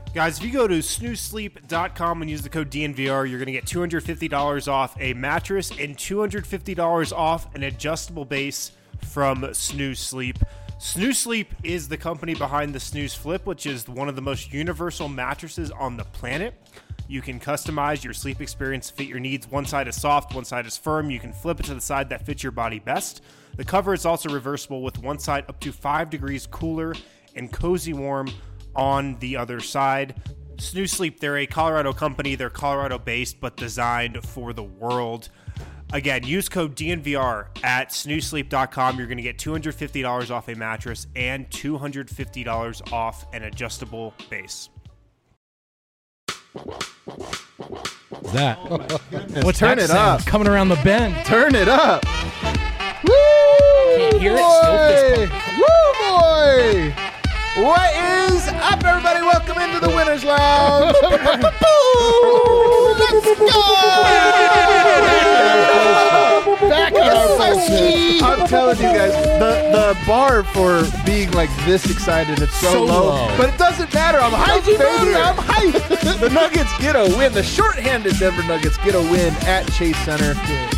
Guys, if you go to snoozesleep.com and use the code DNVR, you're going to get $250 off a mattress and $250 off an adjustable base from Snooze Sleep. Snooze Sleep is the company behind the Snooze Flip, which is one of the most universal mattresses on the planet. You can customize your sleep experience to fit your needs. One side is soft, one side is firm. You can flip it to the side that fits your body best. The cover is also reversible with one side up to 5 degrees cooler and cozy warm on the other side. Snooze Sleep, they're a Colorado company. They're Colorado-based, but designed for the world. Again, use code DNVR at snoozesleep.com. You're going to get $250 off a mattress and $250 off an adjustable base. That. What's Turn that it sound? up. Coming around the bend. Turn it up. Woo! Can't hear it, boy! still fist Woo, boy! What is up, everybody? Welcome into the Winners Lounge. Let's go! Back in our business. I'm telling you guys, the bar for being like this excited, it's so low. But it doesn't matter. I'm hyped, baby. I'm hyped. The Nuggets get a win. The shorthanded Denver Nuggets get a win at Chase Center.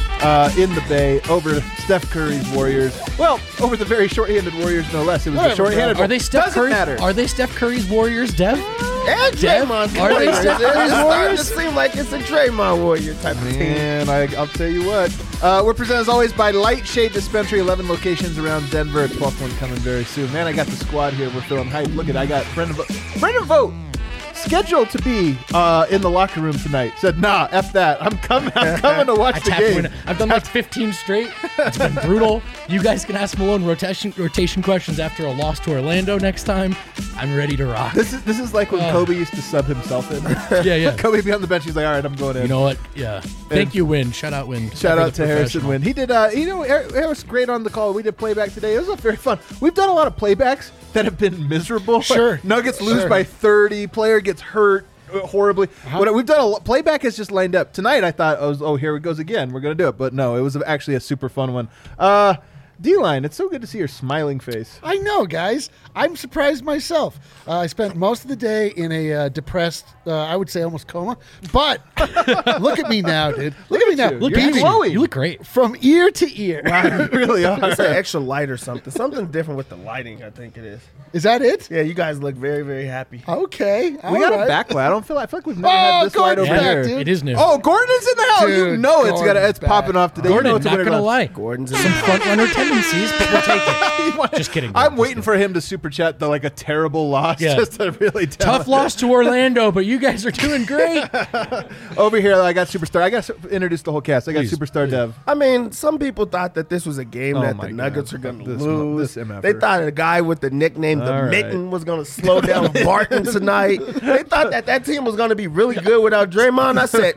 In the Bay over Steph Curry's Warriors. Well, over the very short-handed Warriors, no less. It was the short-handed. Are they Steph Curry? Matter. Are they Steph Curry's Warriors, Dev? And Draymond Are they Steph Curry's It Warriors? seems like it's a Draymond Warrior type of team. Man, I'll tell you what. We're presented as always by Lightshade Dispensary, 11 locations around Denver. A 12th one coming very soon. Man, I got the squad here. We're feeling hyped. Look at I got Brendan Vogt. Scheduled to be in the locker room tonight. Said, nah, F that. I'm coming to watch the game. I've done like 15 straight. It's been brutal. You guys can ask Malone rotation questions after a loss to Orlando next time. I'm ready to rock. This is like when Kobe used to sub himself in. Yeah. Kobe be on the bench. He's like, all right, I'm going in. You know what? Yeah. Thank you, Win. Shout out, Win. Shout out to Harrison Wynn. He did, Harris great on the call. We did playback today. It was very fun. We've done a lot of playbacks that have been miserable. Sure. Nuggets lose by 30. Player gets hurt horribly. We've done playback is just lined up. Tonight I thought, here it goes again. We're going to do it. But no, it was actually a super fun one. D-Line, it's so good to see your smiling face. I know, guys. I'm surprised myself. I spent most of the day in a depressed, I would say almost coma. But look at me now, dude. Look at me now. you. Look You're at me. glowing. You look great. From ear to ear. You really are. It's an extra light or something. Something different with the lighting, I think it is. Is that it? Yeah, you guys look very, very happy. Okay. We got a backlight. I feel like we've never had this light over Gordon's here. back, dude. It is new. Oh, Gordon's in the house. You Dude, know Gordon's it's popping back. off today. You know Gordon, it's a not winner gonna lunch. lie. Gordon's in Some front runner tendencies, but we'll take it. Just kidding. I'm waiting for him to super chat a terrible loss Yeah. just to really tell Tough loss to Orlando, but you guys are doing great. Over here, I got Superstar. I got to introduce the whole cast. I got Please, Superstar Dev. I mean, some people thought that this was a game Oh that my the Nuggets God. are going to This lose. MFer. They thought a guy with the nickname The All right. Mitten was going to slow down Barton tonight. They thought that team was going to be really good without Draymond. I said,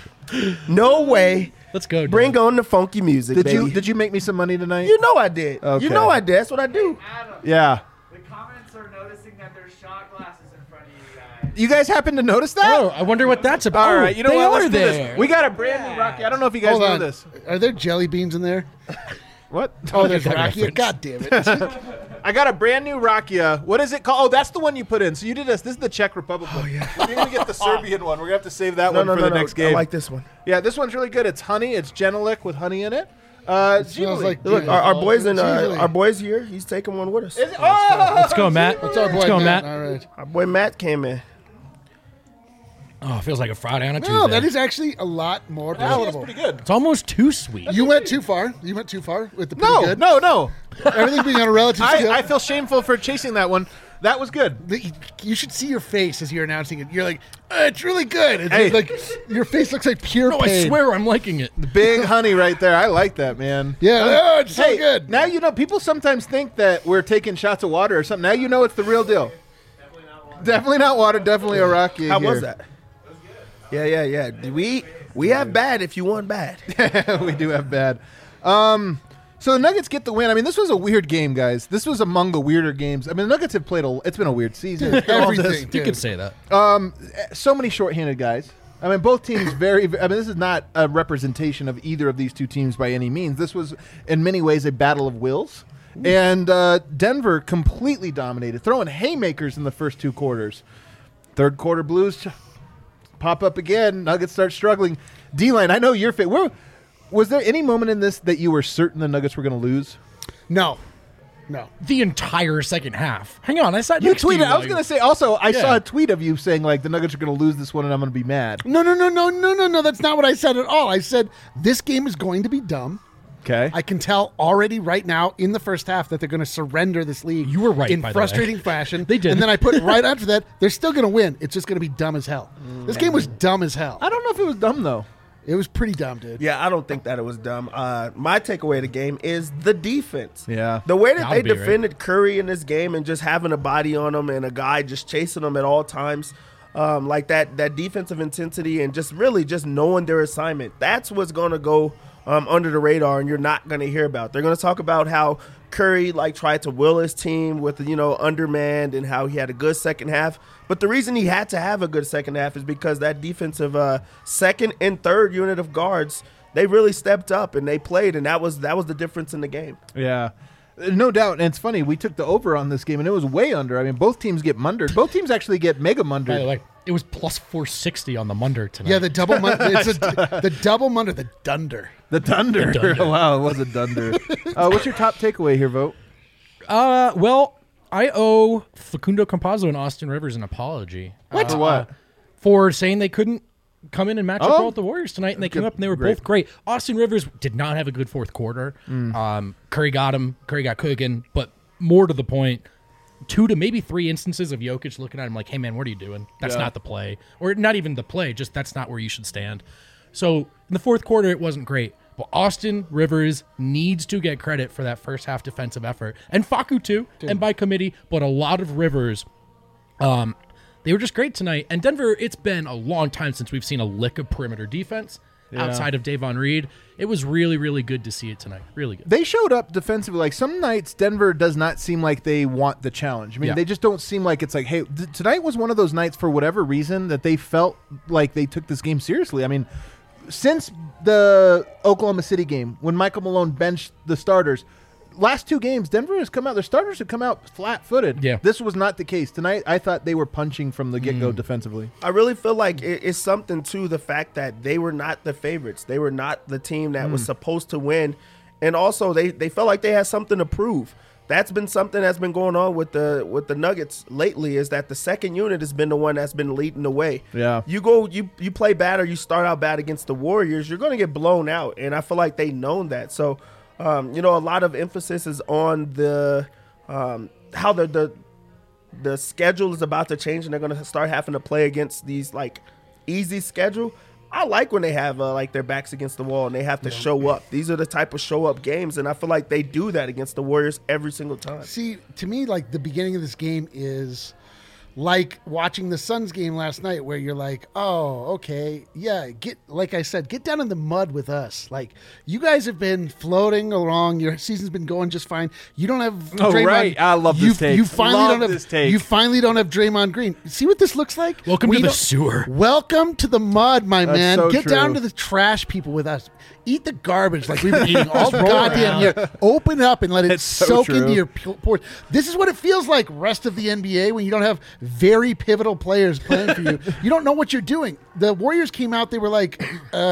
no way. Let's go. Dave. Bring on the funky music, baby. Did you make me some money tonight? You know I did. Okay. You know I did. That's what I do. Yeah. The comments are noticing that there's shot glasses in front of you guys. You guys happen to notice that? Oh, I wonder what that's about. All right. You know they what? Are Let's do there. this. We got a brand new Rocky. I don't know if you guys Hold know on. this. Are there jelly beans in there? What? Oh, there's that Rakia. reference. God damn it. I got a brand new Rakia. What is it called? Oh, that's the one you put in. So you did this. This is the Czech Republic one. Oh, yeah. We're going to get the Serbian one. We're going to have to save that one for the next game. I like this one. Yeah, this one's really good. It's honey. It's Genelic with honey in it. Smells Jubilee. like Look, our boys in Jubilee. our boys here. He's taking one with us. Is it? Oh! Let's go, Matt. What's our boy, Let's go, Matt? Matt. All right. Our boy Matt came in. Oh, it feels like a Friday on a Tuesday. No, that is actually a lot more That's palatable. pretty good. It's almost too sweet. You went too far. You went too far with the pretty No, good. no. Everything being on a relative scale. I feel shameful for chasing that one. That was good. You should see your face as you're announcing it. You're like, it's really good. It's Hey. like your face looks like pure No, pain. I swear I'm liking it. Big honey right there. I like that, man. Yeah, oh, it's so Hey, good. now you know. People sometimes think that we're taking shots of water or something. Now you know it's the real deal. Definitely not water. Definitely a Rocky. How was that? Yeah. We have bad if you want bad. We do have bad. So the Nuggets get the win. I mean, this was a weird game, guys. This was among the weirder games. I mean, the Nuggets have played it's been a weird season. All this. Everything. You dude. could say that. So many shorthanded guys. I mean, both teams I mean, this is not a representation of either of these two teams by any means. This was, in many ways, a battle of wills. And Denver completely dominated, throwing haymakers in the first two quarters. Third quarter Blues pop up again. Nuggets start struggling. D-line, I know you're fit. Was there any moment in this that you were certain the Nuggets were going to lose? No. The entire second half. Hang on, I saw You tweeted. I was going to say. Also, I Yeah. saw a tweet of you saying like the Nuggets are going to lose this one, and I'm going to be mad. No. That's not what I said at all. I said this game is going to be dumb. Okay. I can tell already right now in the first half that they're going to surrender this league. You were right, in by the way. frustrating fashion. They did. And then I put right after that, they're still going to win. It's just going to be dumb as hell. This game was dumb as hell. I don't know if it was dumb though. It was pretty dumb, dude. Yeah, I don't think that it was dumb. My takeaway of the game is the defense. Yeah. The way that Gotta they be, right? defended Curry in this game and just having a body on him and a guy just chasing him at all times, like that defensive intensity and just really just knowing their assignment. That's what's going to go under the radar and you're not going to hear about. They're going to talk about how Curry tried to will his team with undermanned and how he had a good second half. But the reason he had to have a good second half is because that defensive second and third unit of guards, they really stepped up and they played, and that was the difference in the game. Yeah. No doubt. And it's funny, we took the over on this game, and it was way under. I mean, both teams get mundered. Both teams actually get mega mundered. By the way, it was plus 460 on the Munder tonight. Yeah, the double the double munder, the dunder. The Dunder. The Dunder. Wow, it was a Dunder. What's your top takeaway here, Vote? Well, I owe Facundo Campazzo and Austin Rivers an apology. For what? For saying they couldn't come in and match up Oh. well with the Warriors tonight, and they came up and they were Great. both great. Austin Rivers did not have a good fourth quarter. Curry got him. Curry got cooking, but more to the point, 2 to maybe 3 instances of Jokic looking at him like, hey, man, what are you doing? That's Yeah. not the play. Or not even the play, just that's not where you should stand. So in the fourth quarter, it wasn't great. But Austin Rivers needs to get credit for that first half defensive effort. And Facu too, and by committee, but a lot of Rivers. They were just great tonight. And Denver, it's been a long time since we've seen a lick of perimeter defense outside of Davon Reed. It was really, really good to see it tonight. Really good. They showed up defensively. Like some nights, Denver does not seem like they want the challenge. I mean, Yeah. they just don't seem like it's like, hey, tonight was one of those nights for whatever reason that they felt like they took this game seriously. I mean, since the Oklahoma City game, when Michael Malone benched the starters, last 2 games, Denver has come out, their starters have come out flat-footed. Yeah. This was not the case. Tonight, I thought they were punching from the get-go defensively. I really feel like it's something to the fact that they were not the favorites. They were not the team that was supposed to win. And also, they felt like they had something to prove. That's been something that's been going on with the Nuggets lately, is that the second unit has been the one that's been leading the way. Yeah. You play bad or you start out bad against the Warriors, you're going to get blown out. And I feel like they known that. So, a lot of emphasis is on the how the schedule is about to change, and they're going to start having to play against these easy schedule. I like when they have their backs against the wall and they have to show up. These are the type of show up games, and I feel like they do that against the Warriors every single time. See, to me, the beginning of this game is like watching the Suns game last night, where you're like, oh, okay, yeah, like I said, get down in the mud with us. Like, you guys have been floating along. Your season's been going just fine. You don't have Draymond. right. I love this take. You finally Love don't have this take. You finally don't have Draymond Green. See what this looks like? Welcome We to the don't- sewer. Welcome to the mud, my man. so Get true. down to the trash people with us. Eat the garbage like we've been eating all roll goddamn around. year. Open up and let it It's so soak true. into your pores. This is what it feels like rest of the NBA when you don't have very pivotal players playing for you. You don't know what you're doing. The Warriors came out, they were like,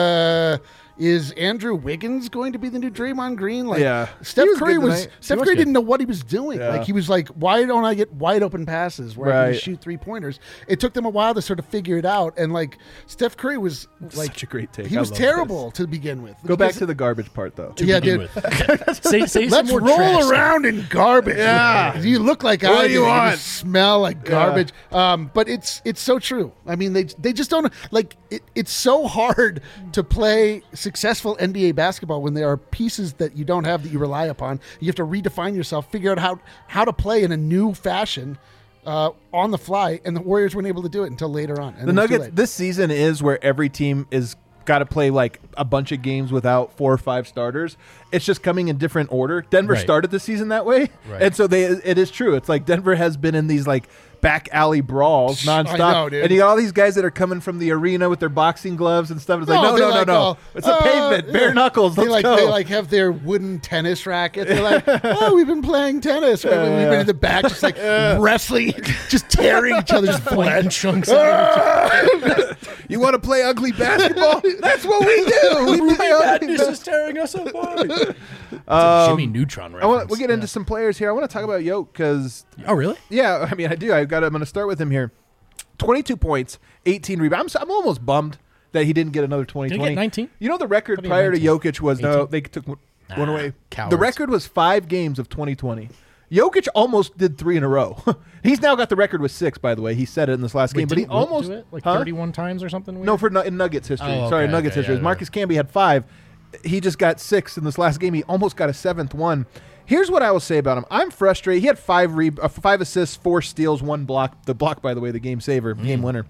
is Andrew Wiggins going to be the new Draymond Green? Like, Yeah. Steph He was Curry good was tonight. Steph was Curry good. didn't know what he was doing. Yeah. Like, he was like, why don't I get wide open passes where I Right. can shoot 3-pointers? It took them a while to sort of figure it out. And Steph Curry was like, Such a great take. he I was love terrible to begin with. Go back Because- to the garbage part, though. yeah, begin dude. with. Say some Let's more roll trash. around in garbage. Yeah. You look like What I do you do. want? You smell like garbage. But it's so true. I mean, they just don't it's so hard to play successful NBA basketball when there are pieces that you don't have that you rely upon. You have to redefine yourself, figure out how to play in a new fashion. On the fly, and the Warriors weren't able to do it until later on. And The it was too Nuggets, late. this season is where every team is got to play a bunch of games without 4 or 5 starters. It's just coming in different order. Denver Right. started the season that way. Right. And so it is true. It's like Denver has been in these back alley brawls nonstop. I know, dude. And you got all these guys that are coming from the arena with their boxing gloves and stuff. It's like, they're no. It's a pavement, bare knuckles. Let's go. They have their wooden tennis racket. They're like, oh, we've been playing tennis. We've been in the back, just like wrestling, just tearing each other's Flanking chunks out. You want to play ugly basketball? That's what we do. We play ugly Madness is tearing us apart. Jimmy Neutron reference. We'll get into some players here. I want to talk about Yoke because Oh, really? yeah, I mean, I do. I'm going to start with him here. 22 points, 18 rebounds. I'm almost bummed that he didn't get another 20. Did he get 19? You know the record What do you prior to 19? Jokic was 18? they took one away. Cowards. The record was 5 games of 2020. Jokic almost did 3 in a row. He's now got the record with 6, by the way. He said it in this last game, but he Didn't Wilt almost do it like Huh? 31 times or something. Weird? No, for in Nuggets history. Oh, Sorry, okay, Nuggets okay, history. yeah, Marcus Camby had 5. He just got 6 in this last game. He almost got a 7th one. Here's what I will say about him. I'm frustrated. He had 5 assists, 4 steals, 1 block. The block, by the way, the game saver, game winner.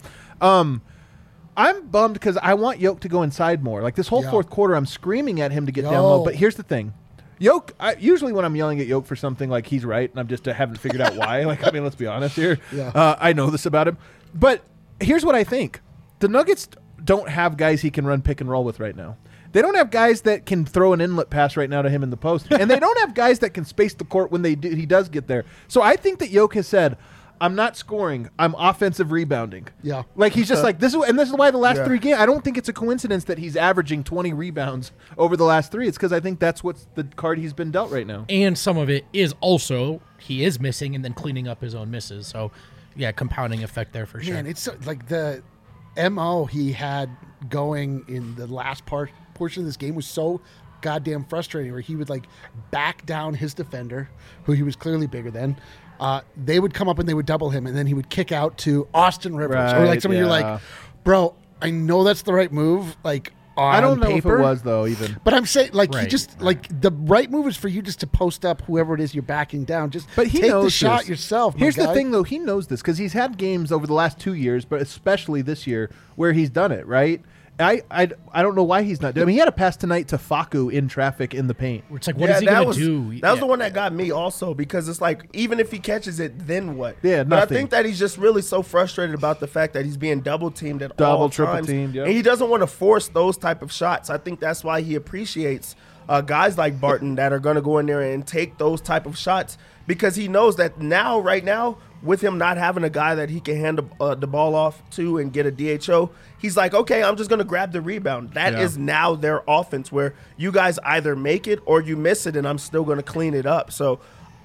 I'm bummed because I want Yoke to go inside more. Like this whole fourth quarter, I'm screaming at him to get down low. But here's the thing. Yoke, usually when I'm yelling at Yoke for something, like he's right, and I'm just haven't figured out why. Like, I mean, let's be honest here. Yeah. I know this about him. But here's what I think. The Nuggets don't have guys he can run pick and roll with right now. They don't have guys that can throw an inlet pass right now to him in the post. And they don't have guys that can space the court when he does get there. So I think that Yoke has said, I'm not scoring. I'm offensive rebounding. Yeah. Like he's just like this is why the last 3 games. I don't think it's a coincidence that he's averaging 20 rebounds over the last 3. It's because I think that's what's the card he's been dealt right now. And some of it is also he is missing and then cleaning up his own misses. So, yeah, compounding effect there for sure. Man, it's like the MO he had going in the last portion of this game was so goddamn frustrating, where he would like back down his defender, who he was clearly bigger than. They would come up and they would double him, and then he would kick out to Austin Rivers. Or like you're like, bro, I know that's the right move. Like on I don't know paper, if it was though even. but I'm saying like he Right, just like the right move is for you just to post up whoever it is you're backing down. Just But he take knows the shot this. yourself. my Here's the guy. thing, though. He knows this because he's had games over the last 2 years, but especially this year, where he's done it, right? I don't know why he's not doing it. I mean, he had a pass tonight to Facu in traffic in the paint. It's like, what is he going to do? That was the one that got me also, because it's like, even if he catches it, then what? Yeah, But I nothing. think that he's just really so frustrated about the fact that he's being double teamed at Double, all triple times. teamed, yep. And he doesn't want to force those type of shots. I think that's why he appreciates guys like Barton that are going to go in there and take those type of shots, because he knows that right now, with him not having a guy that he can hand the ball off to and get a DHO, he's like, okay, I'm just going to grab the rebound. That is now their offense, where you guys either make it or you miss it, and I'm still going to clean it up. So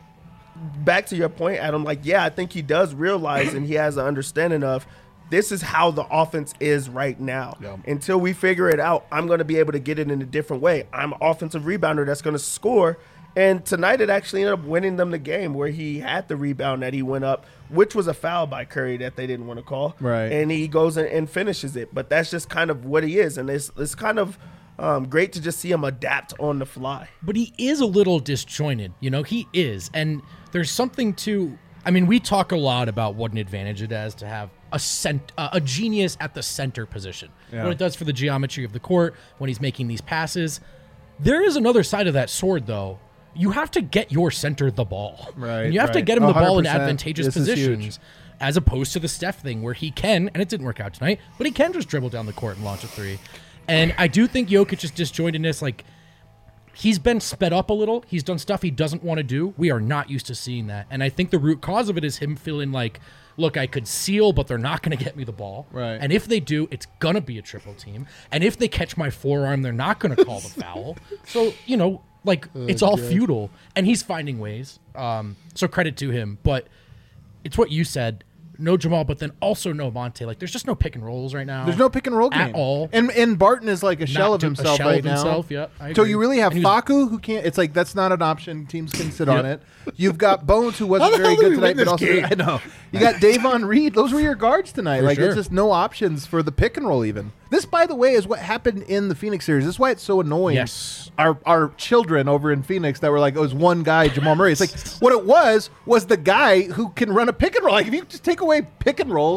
back to your point, Adam, like, yeah, I think he does realize and he has an understanding of this is how the offense is right now. Yeah. Until we figure it out, I'm going to be able to get it in a different way. I'm an offensive rebounder that's going to score. And tonight it actually ended up winning them the game, where he had the rebound that he went up, which was a foul by Curry that they didn't want to call. Right. And he goes and finishes it. But that's just kind of what he is. And it's kind of great to just see him adapt on the fly. But he is a little disjointed, he is. And there's something to, I mean, we talk a lot about what an advantage it has to have a genius at the center position. Yeah. What it does for the geometry of the court when he's making these passes. There is another side of that sword, though. You have to get your center the ball. Right, And you have to right. get him the ball in 100%. advantageous This is huge. positions, as opposed to the Steph thing, where he can, and it didn't work out tonight, but he can just dribble down the court and launch a 3. And I do think Jokic's disjointedness, like, he's been sped up a little. He's done stuff he doesn't want to do. We are not used to seeing that. And I think the root cause of it is him feeling like, look, I could seal, but they're not going to get me the ball. Right. And if they do, it's going to be a triple team. And if they catch my forearm, they're not going to call the foul. So, it's all futile. And he's finding ways. So credit to him. But it's what you said. No Jamal, but then also no Monte. Like, there's just no pick and rolls right now. There's no pick and roll game At all. And Barton is like a shell of himself right now. Yep, I So agree. you really have And he was- Facu, who can't. It's like that's not an option. Teams can sit on Yep. it. You've got Bones, who wasn't How the very hell did good we tonight, win but this also game? I know you got Davon Reed. Those were your guards tonight. For Like sure. it's just no options for the pick and roll. Even this, by the way, is what happened in the Phoenix series. This is why it's so annoying. Yes. Our children over in Phoenix that were like, it was one guy, Jamal Murray. It's like what it was the guy who can run a pick and roll. Like if you just take away pick and rolls,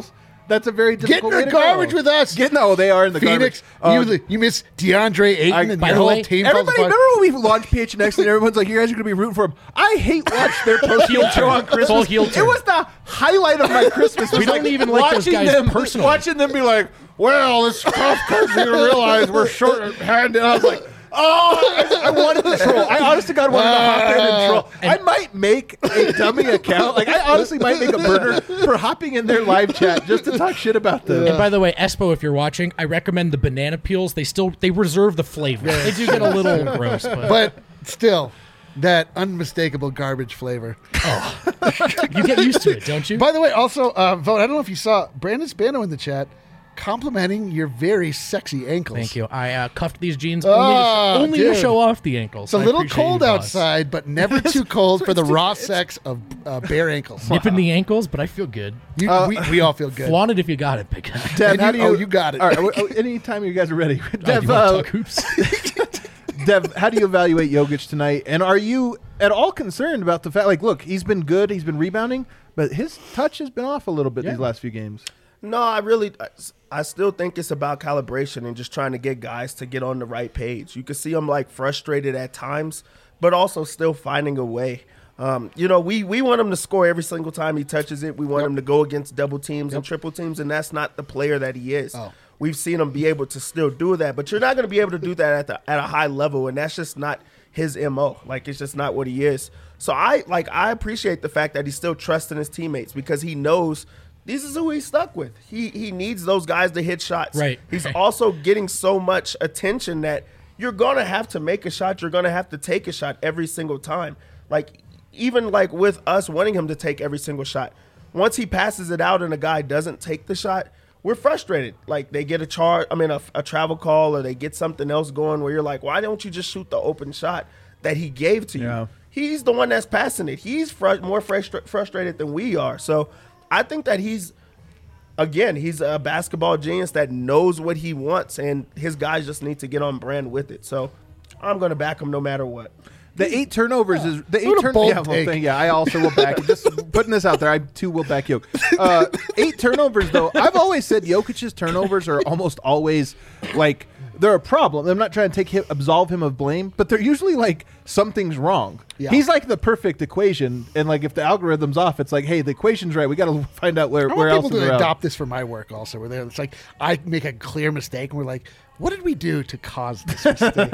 That's a very Get difficult in way the to garbage go. with us. They are in the Phoenix, garbage. you miss DeAndre Ayton and by your the whole way, team. falls Everybody, apart. remember when we launched PHNX and everyone's like, you guys are going to be rooting for him? I hate watch their post-game show on Christmas. Full heel It turn. was the highlight of my Christmas. We don't even like those watching guys personally. Watching them be like, well, it's tough because you realize we're short-handed. And I was like, I wanted to troll. I honest to God wanted to hop in and troll. I might make a dummy account. Like, I honestly might make a burner for hopping in their live chat just to talk shit about them. And by the way, Espo, if you're watching, I recommend the banana peels. They reserve the flavor. They do get a little gross, But still, that unmistakable garbage flavor. you get used to it, don't you? By the way, also, Vote, I don't know if you saw Brandon Spano in the chat complimenting your very sexy ankles. Thank you. I cuffed these jeans Oh, only to dude. show off the ankles. It's a little cold outside, but never too cold for the raw sex of bare ankles. Nipping the ankles, but I feel good. We all feel good. Flaunt it if you got it, big guy. Dev, And how do you? you got it. All right. Anytime you guys are ready, Oh, do Dev, you want to talk hoops? Dev, how do you evaluate Jokic tonight? And are you at all concerned about the fact, like, look, he's been good, he's been rebounding, but his touch has been off a little bit these last few games. No, I still think it's about calibration and just trying to get guys to get on the right page. You can see him like frustrated at times, but also still finding a way. We want him to score every single time he touches it. We want him to go against double teams and triple teams, and that's not the player that he is. We've seen him be able to still do that, but you're not going to be able to do that at a high level, and that's just not his MO. Like, it's just not what he is. So I appreciate the fact that he's still trusting his teammates because he knows this is who he's stuck with. He needs those guys to hit shots. Right. He's also getting so much attention that you're going to have to make a shot. You're going to have to take a shot every single time. Like, even like with us wanting him to take every single shot, once he passes it out and a guy doesn't take the shot, we're frustrated. Like, they get a travel call, or they get something else going where you're like, why don't you just shoot the open shot that he gave to you? Yeah. He's the one that's passing it. He's more frustrated than we are. So I think that he's a basketball genius that knows what he wants, and his guys just need to get on brand with it. So I'm going to back him no matter what. The 8 turnovers is the 8 What a bold turnovers. take. I also will back. Just putting this out there, I too will back Jokic. 8 turnovers though. I've always said Jokic's turnovers are almost always like they're a problem. I'm not trying to absolve him of blame, but they're usually like something's wrong. Yeah. He's like the perfect equation, and like if the algorithm's off, it's like, hey, the equation's right. We got to find out where I want else people in the to route. adopt this for my work also. Where it's like I make a clear mistake and we're like, what did we do to cause this mistake?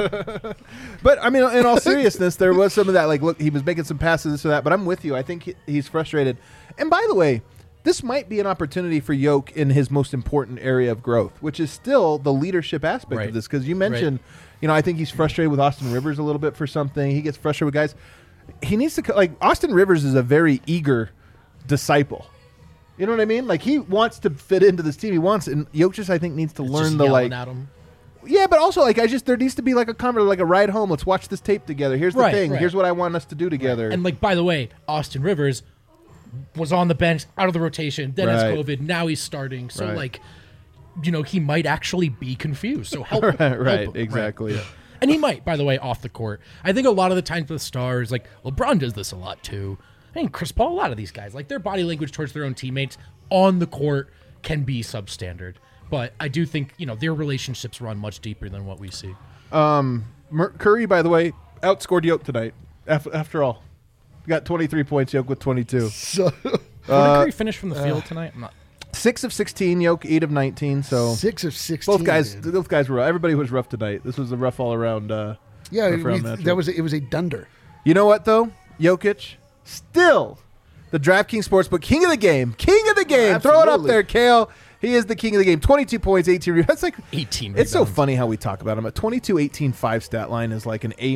But I mean, in all seriousness, there was some of that. Like, look, he was making some passes, this or that. But I'm with you. I think he's frustrated. And by the way, this might be an opportunity for Yoke in his most important area of growth, which is still the leadership aspect of this. Because you mentioned, I think he's frustrated with Austin Rivers a little bit for something. He gets frustrated with guys. He needs to like Austin Rivers is a very eager disciple. You know what I mean? Like, he wants to fit into this team. He wants, and Yoke just, I think, needs to learn Just the yelling like. at him. Yeah, but also like there needs to be like a conversation, like a ride home. Let's watch this tape together. Here's the thing. Right. Here's what I want us to do together. And like, by the way, Austin Rivers was on the bench, out of the rotation, then has Right. COVID. Now he's starting. So Right. like, he might actually be confused. So help him. Help right, him. exactly. Right. And he might, by the way, off the court. I think a lot of the times with stars, like LeBron does this a lot too. I mean, Chris Paul, a lot of these guys, like their body language towards their own teammates on the court can be substandard. But I do think, their relationships run much deeper than what we see. Curry, by the way, outscored Yoke tonight. After all, got 23 points. Yoke with 22. So What did Curry finish from the field tonight? I'm not. 6 of 16. Yoke 8 of 19. So 6 of 16. both guys, dude. those guys were rough. Everybody was rough tonight. This was a rough all around. Yeah, rough round matchup. it was a dunder. You know what though? Jokic still the DraftKings Sportsbook king of the game. King of the game. Throw it up Absolutely. there, Kale. He is the king of the game. 22 points, 18 rebounds. That's like 18 It's so rebounds. funny how we talk about him. A 22, 18, 5 stat line is like an A-,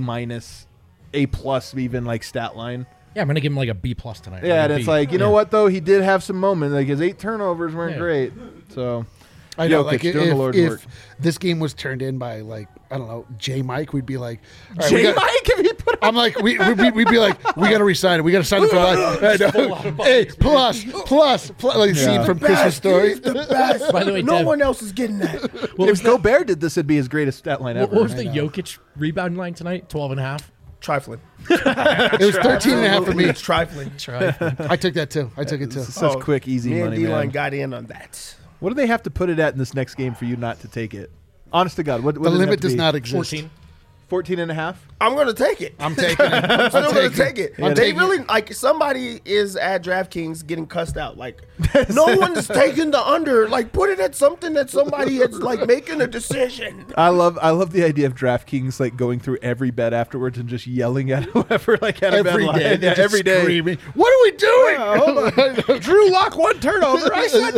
A+ even like stat line. Yeah, I'm going to give him like a B+ tonight. Yeah, Like and a it's B. like, you know what though? He did have some moments. Like his 8 turnovers weren't Yeah. great. So I know, Jokic like doing the Lord's work. if this game was turned in by like I don't know J Mike, we'd be like, all right, J. Mike, if he put I'm like, we'd be like, we got to resign it. We got to sign it for life. I know. Hey, plus, like scene from Christmas Story. By the way, No Dev, one else is getting that. what if was Gobert did this, it'd be his greatest stat line ever. What was the Jokic rebound line tonight? 12 and a half? Trifling. It was 13.5 for me. It's trifling. I took that too. I took it too. Such quick, easy Me and money, D-Line man. got in on that. What do they have to put it at in this next game for you not to take it? Honest to God, what The does it have limit to does be? not exist. 14. 14 and a half? I'm going to take it. I'm taking it. I'm still going to take it. I'm They taking really, it. like, somebody is at DraftKings getting cussed out. Like, no one's taking the under. Like, put it at something that somebody is, like, making a decision. I love the idea of DraftKings like going through every bet afterwards and just yelling at whoever like had a bet Every line. day. Yeah, every day. Screaming, what are we doing? Drew Lock one turnover. I said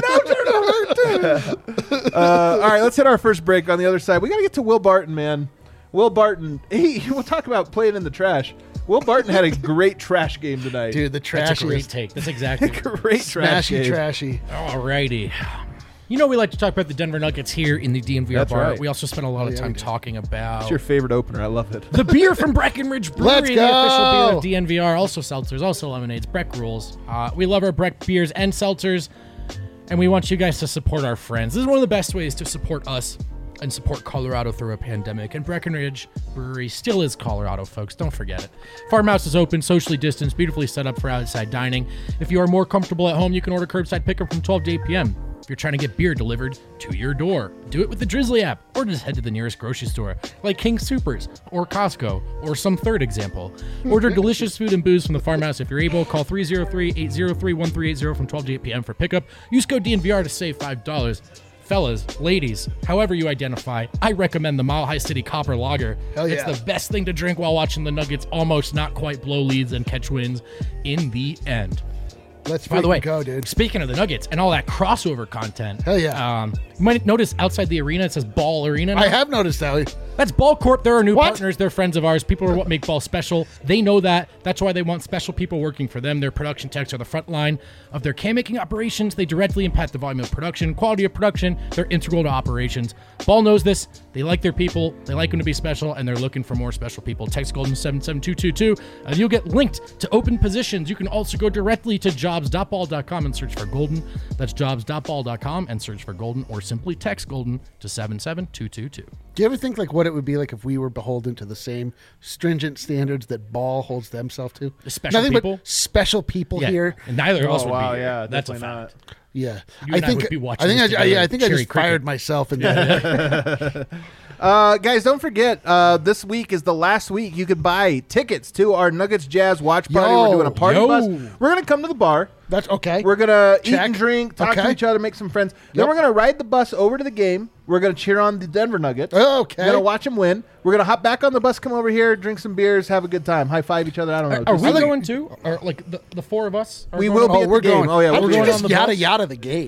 no turnover. All right, let's hit our first break. On the other side, we got to get to Will Barton, man. Will Barton. We'll talk about playing in the trash. Will Barton had a great trash game tonight. Dude, the That's a great trashiest. take. That's exactly Great trash Smashy game. trashy. Alrighty. You know we like to talk about the Denver Nuggets here in the DNVR That's bar. right. We also spend a lot of yeah, time we do. talking about It's your favorite opener. I love it. the beer from Breckenridge Brewery, Let's the official go. beer of DNVR. Also seltzers, also lemonades, Breck rules. We love our Breck beers and seltzers, and we want you guys to support our friends. This is one of the best ways to support us and support Colorado through a pandemic. And Breckenridge Brewery still is Colorado, folks. Don't forget it. Farmhouse is open, socially distanced, beautifully set up for outside dining. If you are more comfortable at home, you can order curbside pickup from 12 to 8 p.m. If you're trying to get beer delivered to your door, do it with the Drizzly app, or just head to the nearest grocery store, like King Soopers, or Costco, or some third example. Order delicious food and booze from the farmhouse if you're able. Call 303-803-1380 from 12 to 8 p.m. for pickup. Use code DNVR to save $5. Fellas, ladies, however you identify, I recommend the Mile High City Copper Lager. Hell yeah. It's the best thing to drink while watching the Nuggets almost not quite blow leads and catch wins in the end. Let's By the way, go, dude. speaking of the Nuggets and all that crossover content, Hell yeah. You might notice outside the arena it says Ball Arena. Now. I have noticed that. That's Ball Corp. They're our new What? partners. They're friends of ours. People are what make Ball special. They know that. That's why they want special people working for them. Their production techs are the front line of their can-making operations. They directly impact the volume of production, quality of production. They're integral to operations. Ball knows this. They like their people. They like them to be special, and they're looking for more special people. Text Golden 77222, and you'll get linked to open positions. You can also go directly to jobs.ball.com and search for Golden. That's jobs.ball.com and search for Golden, or simply text Golden to 77222. Do you ever think like what it would be like if we were beholden to the same stringent standards that Ball holds themselves to? The special Nothing people? but special people Yeah, here. and neither of us Oh, would wow, be here. yeah, That's a definitely fact. not. Yeah, You and I would be watching this I together, think I cherry just cricket. fired myself in that. Guys, don't forget, this week is the last week you could buy tickets to our Nuggets Jazz watch party. Yo, We're doing a party yo. bus. We're going to come to the bar. That's okay. We're going to eat Check. and drink, talk to Okay. each other, make some friends. Then Yep. we're going to ride the bus over to the game. We're going to cheer on the Denver Nuggets. Okay. We're going to watch them win. We're going to hop back on the bus, come over here, drink some beers, have a good time, high five each other. I don't know. Are Just- we going to? Or like the four of us? Are We going will on- be at we're the game. going. Oh, yeah, How we're did you going just on the yada bus? yada the game?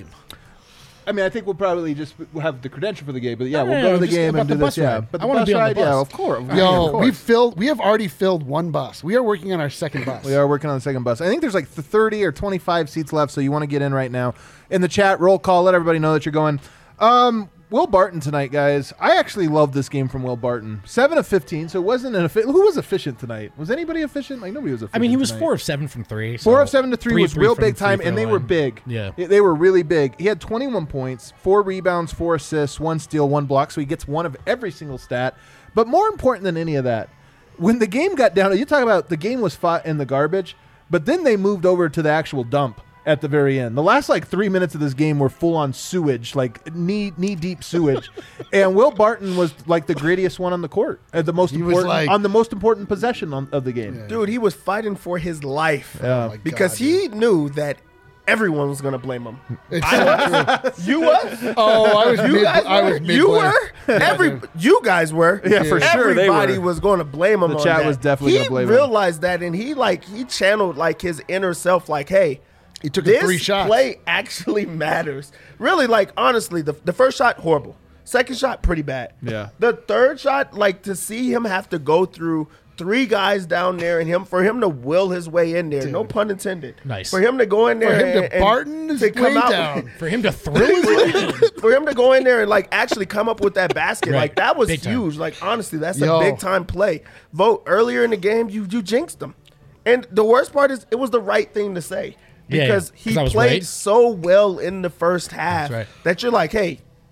I mean, I think we'll probably just have the credential for the game, but yeah, we'll Yeah, go to the just game about and the do bus this. Yeah, ride. but I wanna be on the ride, yeah, bus. of course. Yo, of course. we have already filled one bus. We are working on our second bus. We are working on the second bus. I think there's like 30 or 25 seats left, so you want to get in right now. In the chat, roll call, let everybody know that you're going. Will Barton tonight, guys. I actually love this game from Will Barton. 7 of 15, so it wasn't an efficient. Who was efficient tonight? Was anybody efficient? Like, nobody was efficient. I mean, he was tonight. 4 of 7 from 3. 4 of 7 to 3 was real from big time, free and throw they were line. big. Yeah. They were really big. He had 21 points, 4 rebounds, 4 assists, 1 steal, 1 block, so he gets one of every single stat. But more important than any of that, when the game got down, you talk about the game was fought in the garbage, but then they moved over to the actual dump at the very end. The last like 3 minutes of this game were full on sewage, like knee deep sewage, and Will Barton was like the grittiest one on the court, the most He was important like- on the most important possession of the game. Dude, he was fighting for his life Yeah. my because God, he knew that everyone was going to blame him. It's so true. You was? Oh, I was You mid. guys I were? was mid. You were? You guys were. Yeah, for sure they Everybody were. was going to blame him The on chat that. was definitely He gonna blame him. realized that, and he channeled like his inner self, like, hey, He took this 3 shots. play actually matters. Really, like, honestly, the first shot, horrible. Second shot, pretty bad. Yeah. The third shot, like, to see him have to go through 3 guys down there and for him to will his way in there, no pun intended. Nice. For him to go in there For him to and Barton his to come way out down. For him to thrill his way in. for him to go in there and like actually come up with that basket, Right. like that was Big time. huge. Like honestly, that's Yo. a big time play. Vote earlier in the game, you jinxed him, and the worst part is it was the right thing to say Yeah, because yeah. he 'Cause I was played right. so well in the first half That's right. that you're like, hey,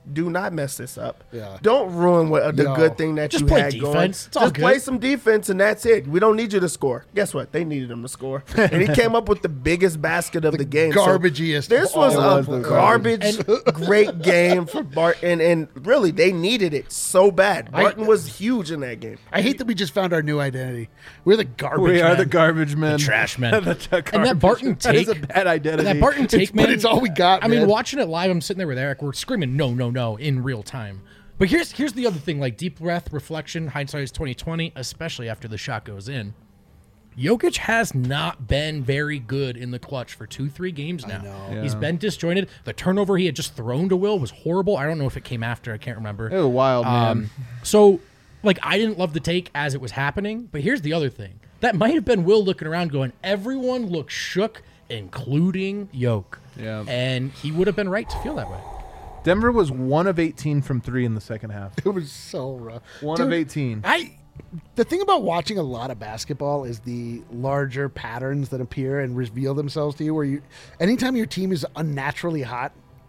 do not mess this up. Yeah. Don't ruin the No. good thing that Just you play had defense. going. It's all Just play good. some defense, and that's it. We don't need you to score. Guess what? They needed him to score, and he came up with the biggest basket of the game. So Garbagiest. this of was all a of them. garbage, great game for Barton, and really they needed it so bad. Barton was huge in that game. I hate that we just found our new identity. We're the garbage. We are men. the garbage men. Trash men. The And that Barton That is take, a bad identity. that Barton take, man. But it's all we got. I mean, man. watching it live, I'm sitting there with Eric. We're screaming, no, no, no, in real time. But here's the other thing: like deep breath, reflection, hindsight is 20/20, especially after the shot goes in. Jokic has not been very good in the clutch for 2-3 games now. He's been disjointed. The turnover he had just thrown to Will was horrible. I don't know if it came after. I can't remember. It was wild, man. So, like, I didn't love the take as it was happening, but here's the other thing. That might have been Will looking around going, everyone looks shook, including Yoke. Yeah. And he would have been right to feel that way. Denver was 1 of 18 from 3 in the second half. It was so rough. 1 of Dude, 18. The thing about watching a lot of basketball is the larger patterns that appear and reveal themselves to you. Where anytime your team is unnaturally hot,